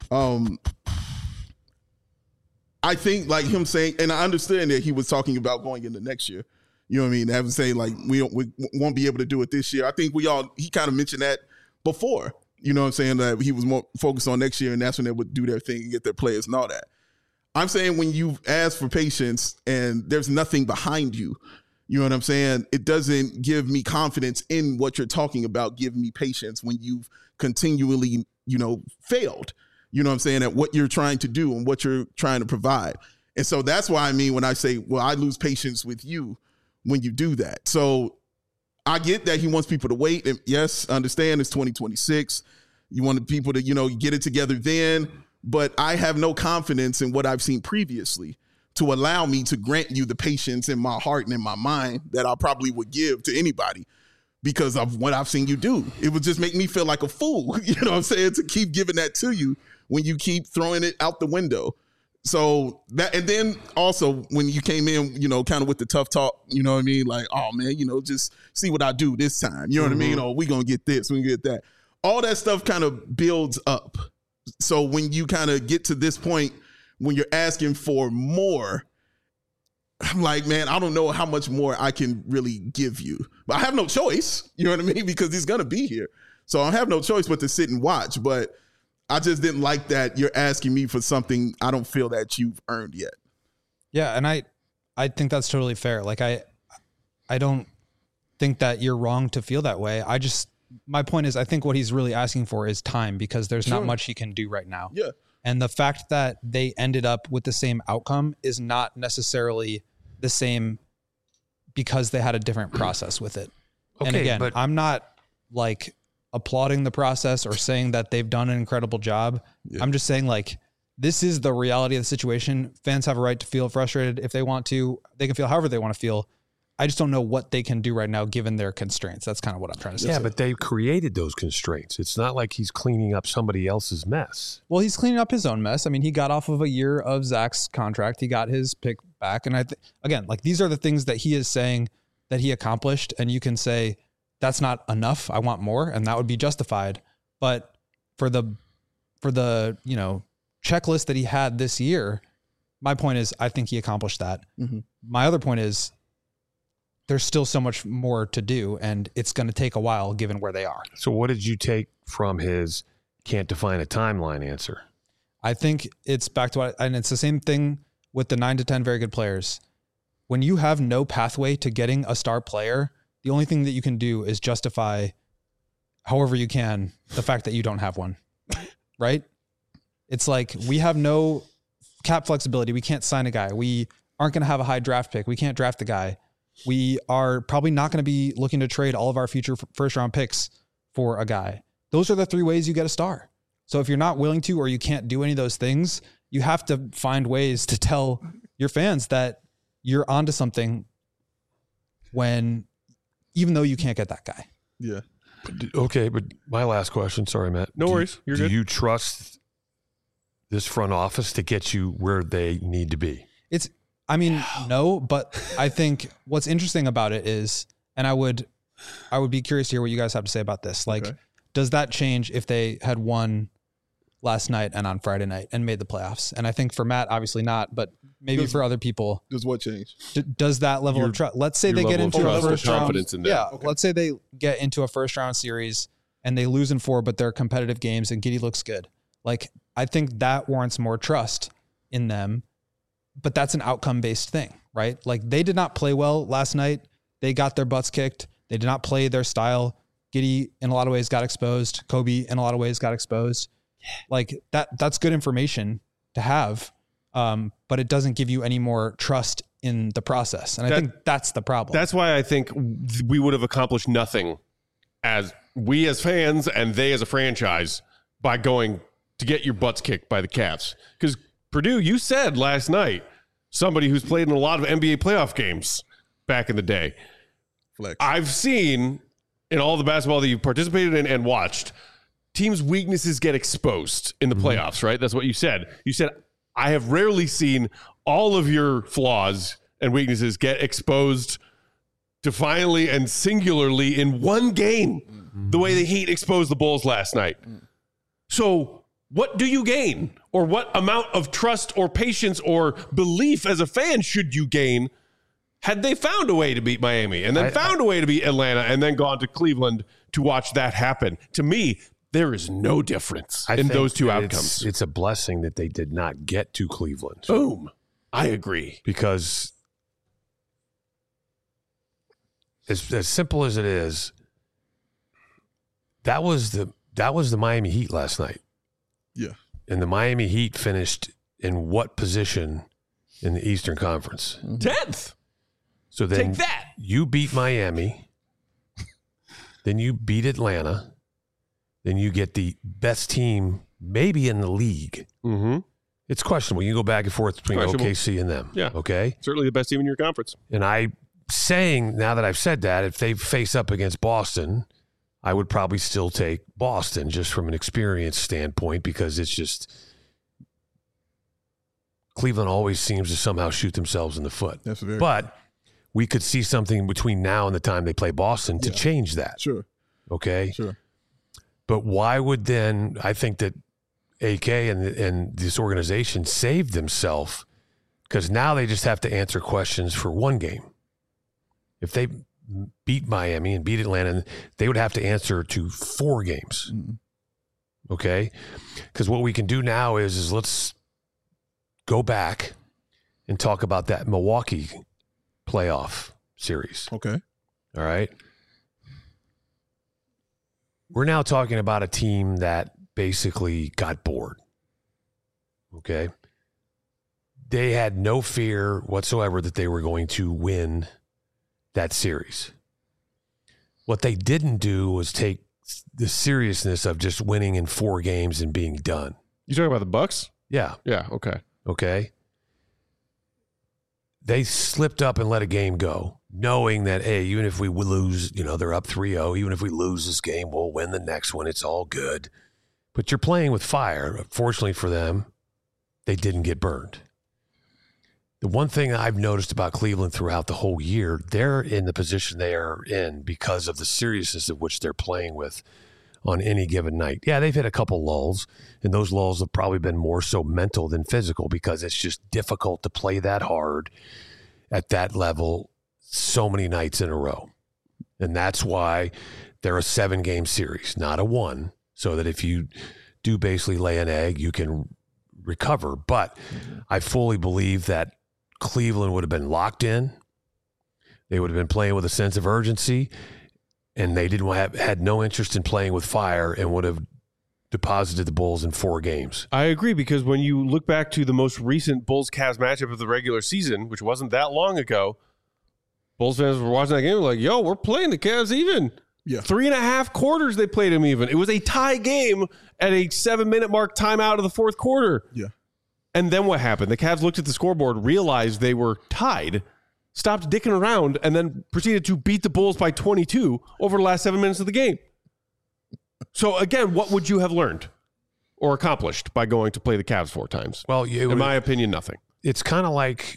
I think like him saying, and I understand that he was talking about going into next year. You know what I mean? Having say like we won't be able to do it this year. I think he kind of mentioned that before. You know what I'm saying? That he was more focused on next year, and that's when they would do their thing and get their players and all that. I'm saying when you ask for patience and there's nothing behind you, you know what I'm saying? It doesn't give me confidence in what you're talking about. Give me patience when you've continually, failed. You know what I'm saying? At what you're trying to do and what you're trying to provide. And so that's why I mean when I say, well, I lose patience with you when you do that. So I get that he wants people to wait. And yes, I understand it's 2026. You want people to, get it together then. But I have no confidence in what I've seen previously to allow me to grant you the patience in my heart and in my mind that I probably would give to anybody because of what I've seen you do. It would just make me feel like a fool, you know what I'm saying, to keep giving that to you when you keep throwing it out the window. So that, and then also when you came in, kind of with the tough talk, you know what I mean? Like, oh man, just see what I do this time. You know what I mean? Oh, we going to get this, we get that. All that stuff kind of builds up. So when you kind of get to this point, when you're asking for more, I'm like, man, I don't know how much more I can really give you. But I have no choice, you know what I mean? Because he's going to be here. So I have no choice but to sit and watch. But I just didn't like that you're asking me for something I don't feel that you've earned yet. Yeah, and I think that's totally fair. Like I don't think that you're wrong to feel that way. My point is, I think what he's really asking for is time because there's not much he can do right now. Yeah. And the fact that they ended up with the same outcome is not necessarily the same because they had a different process with it. Okay, and again, but I'm not like applauding the process or saying that they've done an incredible job. Yeah. I'm just saying like, this is the reality of the situation. Fans have a right to feel frustrated if they want to. They can feel however they want to feel. I just don't know what they can do right now given their constraints. That's kind of what I'm trying to say. Yeah, but they created those constraints. It's not like he's cleaning up somebody else's mess. Well, he's cleaning up his own mess. I mean, he got off of a year of Zach's contract. He got his pick back. And again, like these are the things that he is saying that he accomplished. And you can say, that's not enough. I want more. And that would be justified. But for the checklist that he had this year, my point is, I think he accomplished that. Mm-hmm. My other point is, there's still so much more to do, and it's going to take a while given where they are. So what did you take from his can't define a timeline answer? I think it's back to and it's the same thing with the 9 to 10 very good players. When you have no pathway to getting a star player, the only thing that you can do is justify however you can the fact that you don't have one, right? It's like we have no cap flexibility. We can't sign a guy. We aren't going to have a high draft pick. We can't draft the guy. We are probably not going to be looking to trade all of our future first round picks for a guy. Those are the 3 ways you get a star. So if you're not willing to, or you can't do any of those things, you have to find ways to tell your fans that you're onto something even though you can't get that guy. Yeah. Okay. But my last question, sorry, Matt. No worries. You're good. Do you trust this front office to get you where they need to be? No, but I think what's interesting about it is, and I would be curious to hear what you guys have to say about this. Like, does that change if they had won last night and on Friday night and made the playoffs? And I think for Matt, obviously not, but maybe for other people. Does what change? Does that level of trust? Let's say they get into a first round. Confidence in that. Yeah. Okay. Let's say they get into a first round series and they lose in 4, but they're competitive games and Giddey looks good. Like, I think that warrants more trust in them. But that's an outcome-based thing, right? Like they did not play well last night. They got their butts kicked. They did not play their style. Giddey, in a lot of ways, got exposed. Kobe, in a lot of ways, got exposed. Like that's good information to have, but it doesn't give you any more trust in the process. And I think that's the problem. That's why I think we would have accomplished nothing as fans and they as a franchise by going to get your butts kicked by the Cavs. Because Purdue, you said last night, somebody who's played in a lot of NBA playoff games back in the day. Flex. I've seen in all the basketball that you've participated in and watched, teams' weaknesses get exposed in the playoffs, right? That's what you said. You said, I have rarely seen all of your flaws and weaknesses get exposed defiantly and singularly in one game, the way the Heat exposed the Bulls last night. So what do you gain? Or what amount of trust or patience or belief as a fan should you gain had they found a way to beat Miami and then found a way to beat Atlanta and then gone to Cleveland to watch that happen. To me, there is no difference in those two outcomes. It's a blessing that they did not get to Cleveland. Boom. I agree. Because as simple as it is, that was the Miami Heat last night. Yeah. And the Miami Heat finished in what position in the Eastern Conference? 10th. So then Take that. You beat Miami, then you beat Atlanta, then you get the best team maybe in the league. Mm-hmm. It's questionable. You can go back and forth between OKC and them. Yeah. Okay? Certainly the best team in your conference. And I'm saying, now that I've said that, if they face up against Boston, I would probably still take Boston just from an experience standpoint, because it's just Cleveland always seems to somehow shoot themselves in the foot. That's very But we could see something between now and the time they play Boston to change that. Sure. Okay? Sure. But why would then, I think that AK and this organization saved themselves, because now they just have to answer questions for one game. If they beat Miami and beat Atlanta, they would have to answer to 4 games. Mm-hmm. Okay? Because what we can do now is let's go back and talk about that Milwaukee playoff series. Okay. All right? We're now talking about a team that basically got bored. Okay? They had no fear whatsoever that they were going to win that series. What they didn't do was take the seriousness of just winning in 4 games and being done. You talking about the Bucks? Yeah. Yeah, okay. Okay? They slipped up and let a game go, knowing that, hey, even if we lose, they're up 3-0, even if we lose this game, we'll win the next one. It's all good. But you're playing with fire. Fortunately for them, they didn't get burned. The one thing I've noticed about Cleveland throughout the whole year, they're in the position they are in because of the seriousness of which they're playing with on any given night. Yeah, they've hit a couple lulls, and those lulls have probably been more so mental than physical, because it's just difficult to play that hard at that level so many nights in a row. And that's why they're a 7-game series, not a 1, so that if you do basically lay an egg, you can recover. But I fully believe that Cleveland would have been locked in. They would have been playing with a sense of urgency, and they had no interest in playing with fire, and would have deposited the Bulls in 4 games. I agree, because when you look back to the most recent Bulls-Cavs matchup of the regular season, which wasn't that long ago, Bulls fans were watching that game like, yo, we're playing the Cavs even. Yeah. 3.5 quarters they played them even. It was a tie game at a 7-minute mark timeout of the 4th quarter. Yeah. And then what happened? The Cavs looked at the scoreboard, realized they were tied, stopped dicking around, and then proceeded to beat the Bulls by 22 over the last 7 minutes of the game. So, again, what would you have learned or accomplished by going to play the Cavs 4 times? Well, in my opinion, nothing. It's kind of like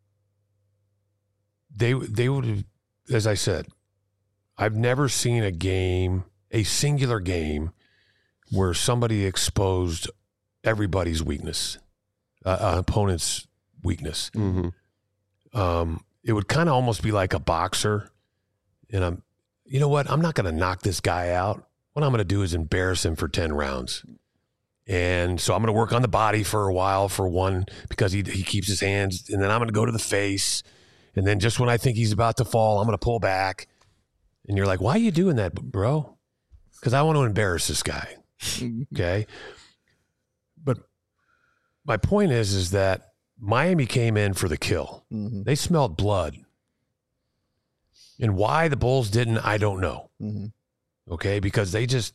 they would have, as I said, I've never seen a singular game where somebody exposed everybody's weakness, opponent's weakness. Mm-hmm. It would kind of almost be like a boxer. And you know what? I'm not going to knock this guy out. What I'm going to do is embarrass him for 10 rounds. And so I'm going to work on the body for a while for one, because he keeps his hands, and then I'm going to go to the face. And then just when I think he's about to fall, I'm going to pull back. And you're like, why are you doing that, bro? Because I want to embarrass this guy. Okay. But my point is that Miami came in for the kill. Mm-hmm. They smelled blood. And why the Bulls didn't, I don't know. Mm-hmm. Okay, because they just,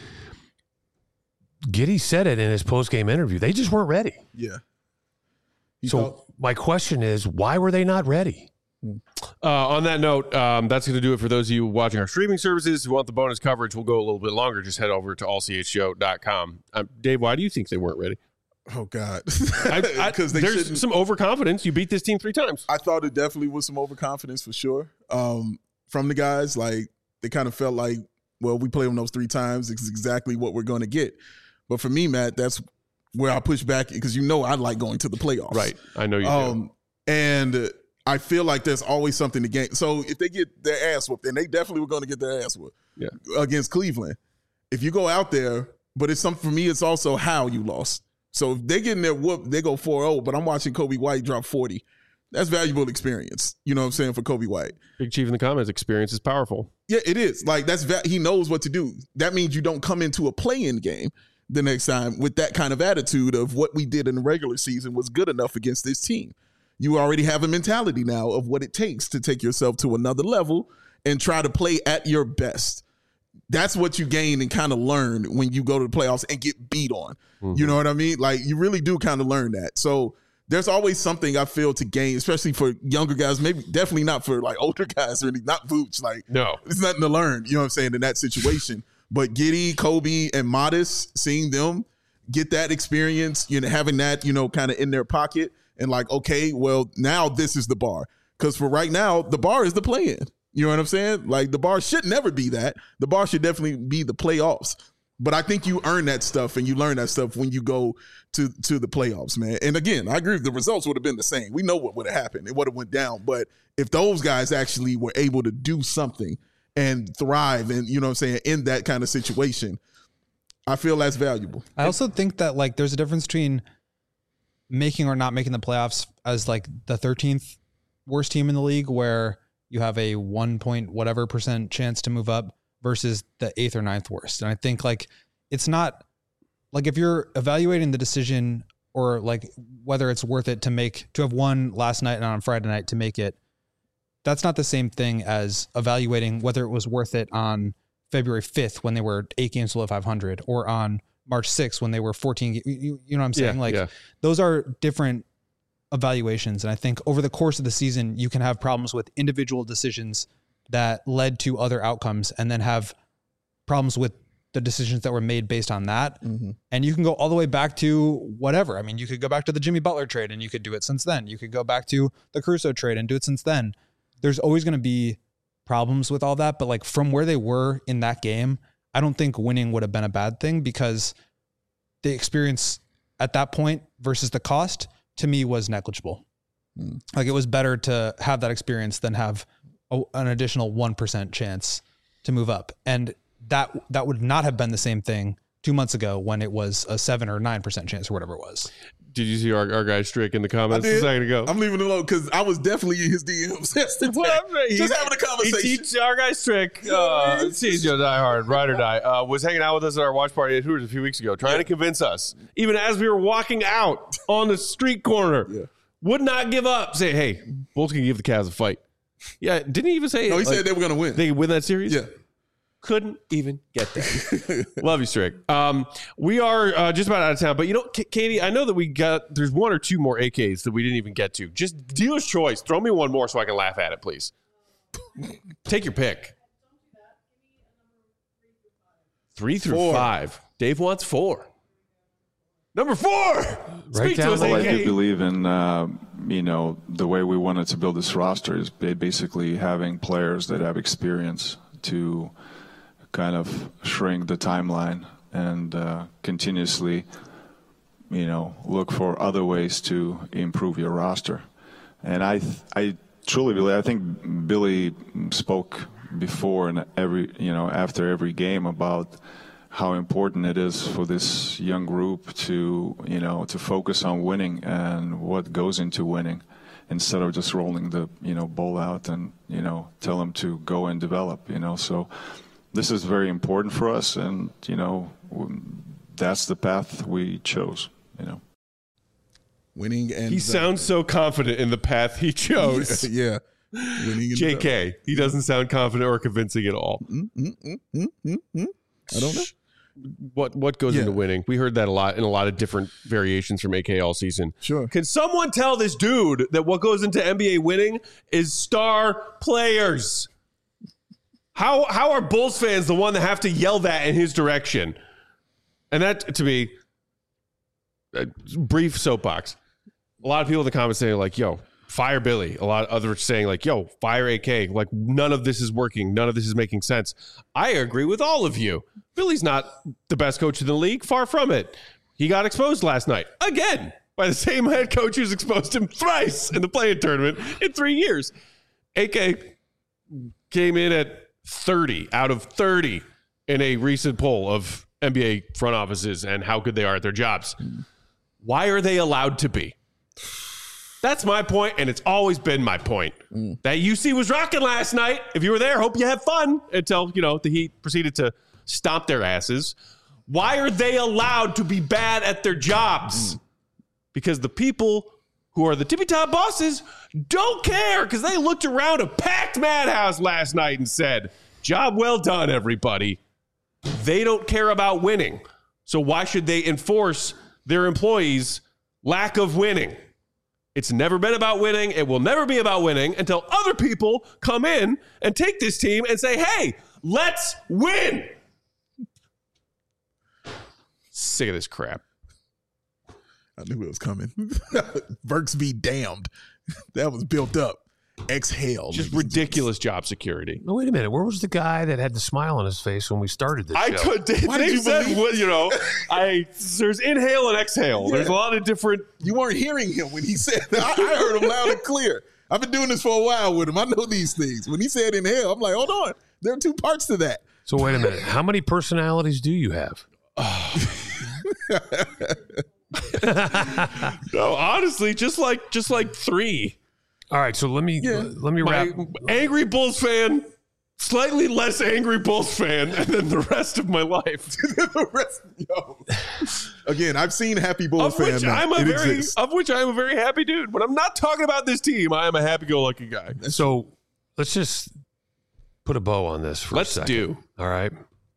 Giddey said it in his post-game interview, they just weren't ready. Yeah. My question is, why were they not ready? On that note, that's going to do it for those of you watching our streaming services who want the bonus coverage. We'll go a little bit longer. Just head over to allchshow.com. Dave, why do you think they weren't ready? Oh, God. Because there's some overconfidence. You beat this team 3 times. I thought it definitely was some overconfidence for sure. From the guys, like, they kind of felt like, well, we play them those 3 times. It's exactly what we're going to get. But for me, Matt, that's where I push back, because I like going to the playoffs. Right. I know you do. And I feel like there's always something to gain. So if they get their ass whooped, and they definitely were going to get their ass whooped against Cleveland, if you go out there, but it's something for me, it's also how you lost. So if they get in their whoop, they go 4-0, but I'm watching Kobe White drop 40. That's valuable experience. You know what I'm saying, for Kobe White. Big Chief in the comments, experience is powerful. Yeah, it is. Like, he knows what to do. That means you don't come into a play-in game the next time with that kind of attitude of what we did in the regular season was good enough against this team. You already have a mentality now of what it takes to take yourself to another level and try to play at your best. That's what you gain and kind of learn when you go to the playoffs and get beat on. Mm-hmm. You know what I mean? Like, you really do kind of learn that. So there's always something I feel to gain, especially for younger guys, maybe definitely not for like older guys or anything, not Vooch. Like, no, it's nothing to learn, you know what I'm saying, in that situation. But Giddey, Kobe, and Modest, seeing them get that experience, you know, having that, you know, kind of in their pocket and like, okay, well, now this is the bar. Because for right now, the bar is the play-in. You know what I'm saying? Like, the bar should never be that. The bar should definitely be the playoffs. But I think you earn that stuff and you learn that stuff when you go to the playoffs, man. And again, I agree, the results would have been the same. We know what would have happened. It would have went down. But if those guys actually were able to do something and thrive and, you know what I'm saying, in that kind of situation, I feel that's valuable. I also think that, like, there's a difference between making or not making the playoffs as like the 13th worst team in the league, where you have a 1% chance to move up, versus the 8th or 9th worst. And I think, like, it's not like, if you're evaluating the decision or like whether it's worth it to have won last night and on Friday night to make it, that's not the same thing as evaluating whether it was worth it on February 5th when they were 8 games below 500, or on March 6th when they were 14. You know what I'm saying? Those are different evaluations. And I think over the course of the season, you can have problems with individual decisions that led to other outcomes, and then have problems with the decisions that were made based on that. Mm-hmm. And you can go all the way back to whatever. I mean, you could go back to the Jimmy Butler trade and you could do it since then. You could go back to the Caruso trade and do it since then. There's always going to be problems with all that. But like, from where they were in that game, I don't think winning would have been a bad thing, because the experience at that point versus the cost, to me, was negligible. Like, it was better to have that experience than have an additional 1% chance to move up. And that would not have been the same thing 2 months ago when it was a 7 or 9% chance or whatever it was. Did you see our guy Strick in the comments a second ago? I'm leaving it alone because I was definitely in his DMs yesterday. Just having a conversation. Our guy Strick, CHGO diehard, ride or die, was hanging out with us at our watch party at Hooters a few weeks ago, trying to convince us, even as we were walking out on the street corner, would not give up. Say, hey, Bulls can give the Cavs a fight. Yeah, didn't he even say? No, he said they were going to win. They win that series? Yeah. Couldn't even get there. Love you, Strick. We are just about out of time, but you know, Katie, I know that there's 1 or 2 more AKs that we didn't even get to. Just dealer's choice. Throw me one more so I can laugh at it, please. Take your pick. 3 through 5. Dave wants 4. Number 4. Speak to us, AK. I do believe in, the way we wanted to build this roster is basically having players that have experience to kind of shrink the timeline and continuously, look for other ways to improve your roster. And I truly believe, I think Billy spoke before and after every game about how important it is for this young group to focus on winning and what goes into winning, instead of just rolling the ball out and tell them to go and develop. So this is very important for us, and that's the path we chose. Winning, and he sounds so confident in the path he chose. Yeah. Winning. JK, he doesn't sound confident or convincing at all. I don't know. What goes into winning? We heard that a lot in a lot of different variations from AK all season. Sure. Can someone tell this dude that what goes into NBA winning is star players? How are Bulls fans the one that have to yell that in his direction? And that, to me, a brief soapbox. A lot of people in the comments saying like, yo, fire Billy. A lot of others saying like, yo, fire AK. Like, none of this is working. None of this is making sense. I agree with all of you. Billy's not the best coach in the league. Far from it. He got exposed last night. Again. by the same head coach who's exposed him thrice in the play-in tournament in 3 years. AK came in at 30 out of 30 in a recent poll of NBA front offices and how good they are at their jobs. Why are they allowed to be? That's my point, and it's always been my point. That UC was rocking last night. If you were there, hope you had fun until, the Heat proceeded to stomp their asses. Why are they allowed to be bad at their jobs? Because the people who are the tippy-top bosses don't care, because they looked around a packed madhouse last night and said, job well done, everybody. They don't care about winning. So why should they enforce their employees' lack of winning? It's never been about winning. It will never be about winning until other people come in and take this team and say, hey, let's win. Sick of this crap. I knew it was coming. Burks be damned. That was built up. Exhale. Just ridiculous job security. No, wait a minute. Where was the guy that had the smile on his face when we started this show? Why did you there's inhale and exhale. Yeah. There's a lot of different. You weren't hearing him when he said that. I heard him loud and clear. I've been doing this for a while with him. I know these things. When he said inhale, I'm like, hold on. There are two parts to that. So wait a minute. How many personalities do you have? No, honestly, just like 3. All right, so let me wrap. Angry Bulls fan, slightly less angry Bulls fan, and then the rest of my life. Again, I've seen happy Bulls fans. Of which I am a very happy dude. When I'm not talking about this team, I am a happy-go-lucky guy. So let's just put a bow on this for a second. Let's do. All right.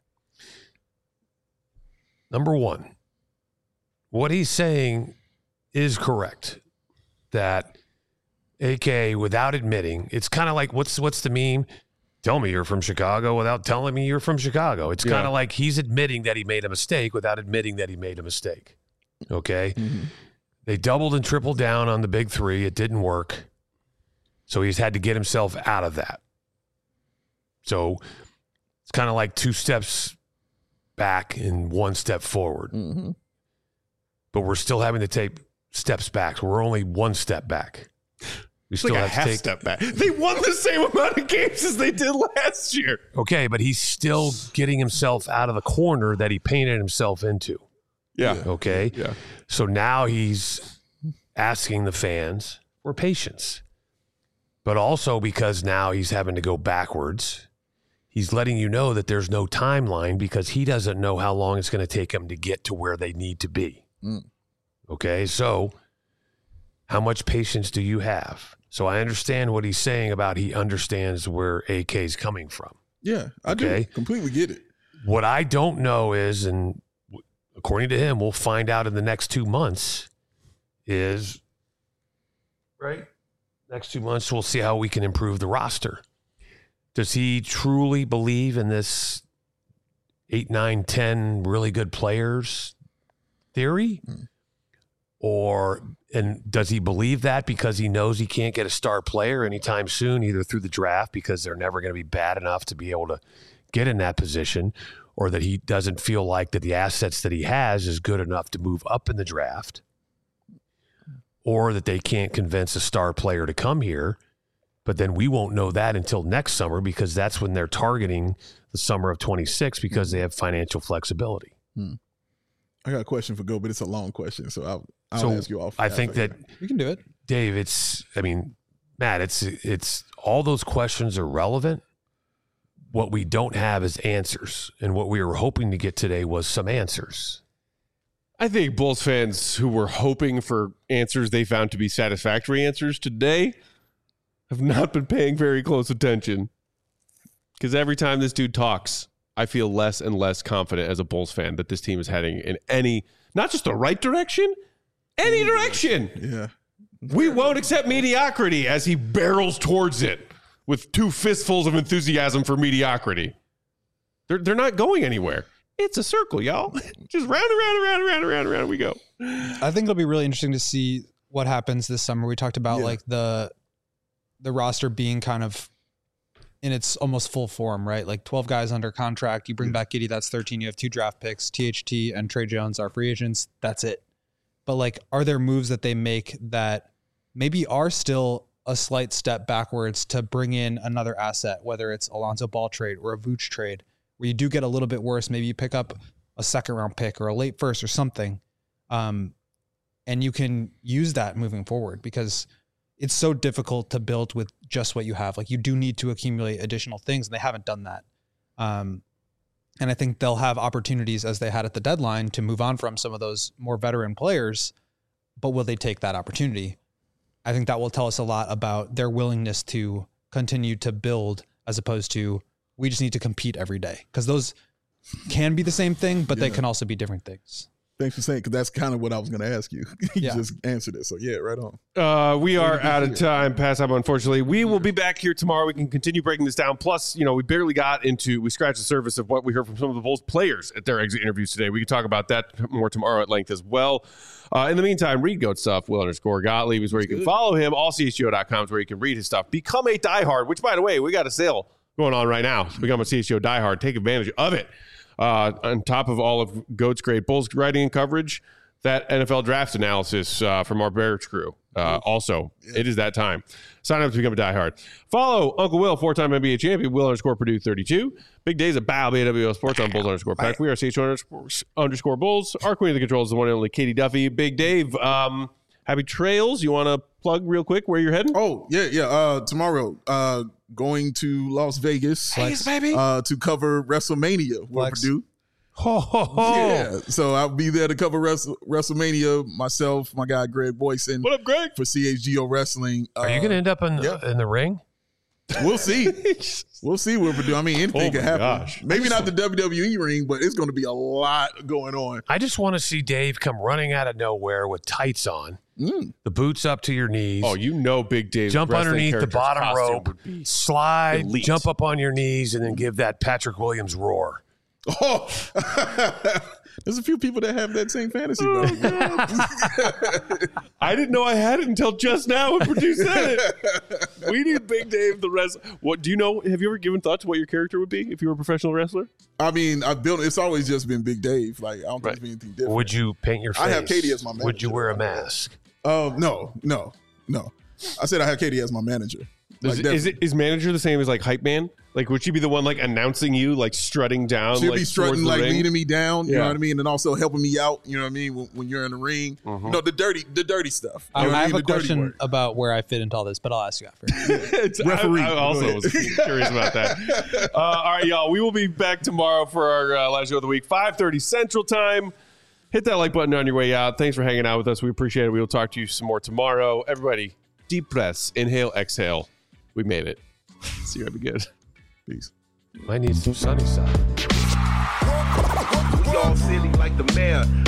Number one, what he's saying is correct. That AK, without admitting, it's kind of like, what's the meme? Tell me you're from Chicago without telling me you're from Chicago. It's kind of like he's admitting that he made a mistake without admitting that he made a mistake. Okay? Mm-hmm. They doubled and tripled down on the big 3. It didn't work. So he's had to get himself out of that. So it's kind of like 2 steps back and 1 step forward. Mm-hmm. But we're still having to take steps back. So we're only 1 step back. We still have to take a step back. They won the same amount of games as they did last year. Okay, but he's still getting himself out of the corner that he painted himself into. Yeah. Okay? Yeah. So now he's asking the fans for patience. But also because now he's having to go backwards, he's letting you know that there's no timeline because he doesn't know how long it's going to take him to get to where they need to be. Okay? So how much patience do you have? So I understand what he's saying about he understands where AK is coming from. Yeah, I do. Completely get it. What I don't know is, and according to him, we'll find out in the next 2 months, is, right? Next 2 months, we'll see how we can improve the roster. Does he truly believe in this 8, 9, 10 really good players theory? And does he believe that because he knows he can't get a star player anytime soon, either through the draft because they're never going to be bad enough to be able to get in that position, or that he doesn't feel like that the assets that he has is good enough to move up in the draft, or that they can't convince a star player to come here? But then we won't know that until next summer because that's when they're targeting the summer of 26 because they have financial flexibility. I got a question for Go, but it's a long question, so I'll ask you off. I think that you can do it, Dave. Matt, it's all those questions are relevant. What we don't have is answers, and what we were hoping to get today was some answers. I think Bulls fans who were hoping for answers they found to be satisfactory answers today have not been paying very close attention, because every time this dude talks, I feel less and less confident as a Bulls fan that this team is heading in any, not just the right direction, any direction. Yeah. We won't accept mediocrity as he barrels towards it with 2 fistfuls of enthusiasm for mediocrity. They're not going anywhere. It's a circle, y'all. Just round and round we go. I think it'll be really interesting to see what happens this summer. We talked about like the roster being kind of in its almost full form, right? Like 12 guys under contract. You bring back Giddey, that's 13. You have 2 draft picks. THT and Trey Jones are free agents. That's it. but like, are there moves that they make that maybe are still a slight step backwards to bring in another asset, whether it's Alonzo Ball trade or a Vooch trade, where you do get a little bit worse. Maybe you pick up a second round pick or a late first or something. And you can use that moving forward, because it's so difficult to build with just what you have. Like, you do need to accumulate additional things, and they haven't done that. And I think they'll have opportunities, as they had at the deadline, to move on from some of those more veteran players, but will they take that opportunity? I think that will tell us a lot about their willingness to continue to build, as opposed to, we just need to compete every day. Because those can be the same thing, but they can also be different things. Thanks for saying, because that's kind of what I was going to ask you. You just answered it. So, yeah, right on. We are out of time, past time, unfortunately. We will be back here tomorrow. We can continue breaking this down. Plus, we barely we scratched the surface of what we heard from some of the Bulls players at their exit interviews today. We can talk about that more tomorrow at length as well. In the meantime, read GOAT stuff. Will_Gottlieb is where you can follow him. AllCHGO.com is where you can read his stuff. Become a diehard, which, by the way, we got a sale going on right now. So become a CHGO diehard. Take advantage of it. On top of all of GOAT's great Bulls writing and coverage, that NFL draft analysis from our Bears crew. Also, it is that time. Sign up to become a diehard. Follow Uncle Will, 4-time NBA champion, Will_Purdue32. Big days at Bow, BWO Sports on Bulls_Pack. We are CHGO_Bulls. Our queen of the controls is the one and only Katie Duffy. Big Dave, happy trails. You want to plug real quick where you're heading? Oh, yeah. Tomorrow, going to Las Vegas, baby, to cover WrestleMania with Purdue. Yeah, so I'll be there to cover WrestleMania. Myself, my guy Greg Boyson. What up, Greg? For CHGO Wrestling. Are you going to end up in the ring? We'll see. We'll see what Purdue. I mean, anything can happen. Gosh. Maybe not the WWE ring, but it's going to be a lot going on. I just want to see Dave come running out of nowhere with tights on, the boots up to your knees. Oh, Big Dave. Jump underneath the bottom rope, slide, elite. Jump up on your knees, and then give that Patrick Williams roar. Oh, there's a few people that have that same fantasy. I didn't know I had it until just now when Purdue said it. We need Big Dave the wrestler. What do you know? Have you ever given thought to what your character would be if you were a professional wrestler? I mean, it's always just been Big Dave. Like, I don't think there's anything different. Would you paint your face? I have Katie as my manager. Would you wear a mask? No. I said I have Katie as my manager. Is manager the same as like hype man? Like, would she be the one like announcing you, like strutting down? She'll like, be strutting, like leading me down. You know what I mean, and also helping me out. You know what I mean, when you're in the ring. Mm-hmm. No, the dirty stuff. I have a question about where I fit into all this, but I'll ask you after. Referee. I also was curious about that. All right, y'all. We will be back tomorrow for our last show of the week, 5:30 Central Time. Hit that like button on your way out. Thanks for hanging out with us. We appreciate it. We will talk to you some more tomorrow. Everybody, deep breaths. Inhale, exhale. We made it. See you. Have a good. Peace. Might need some sunny side. We all silly like the mayor.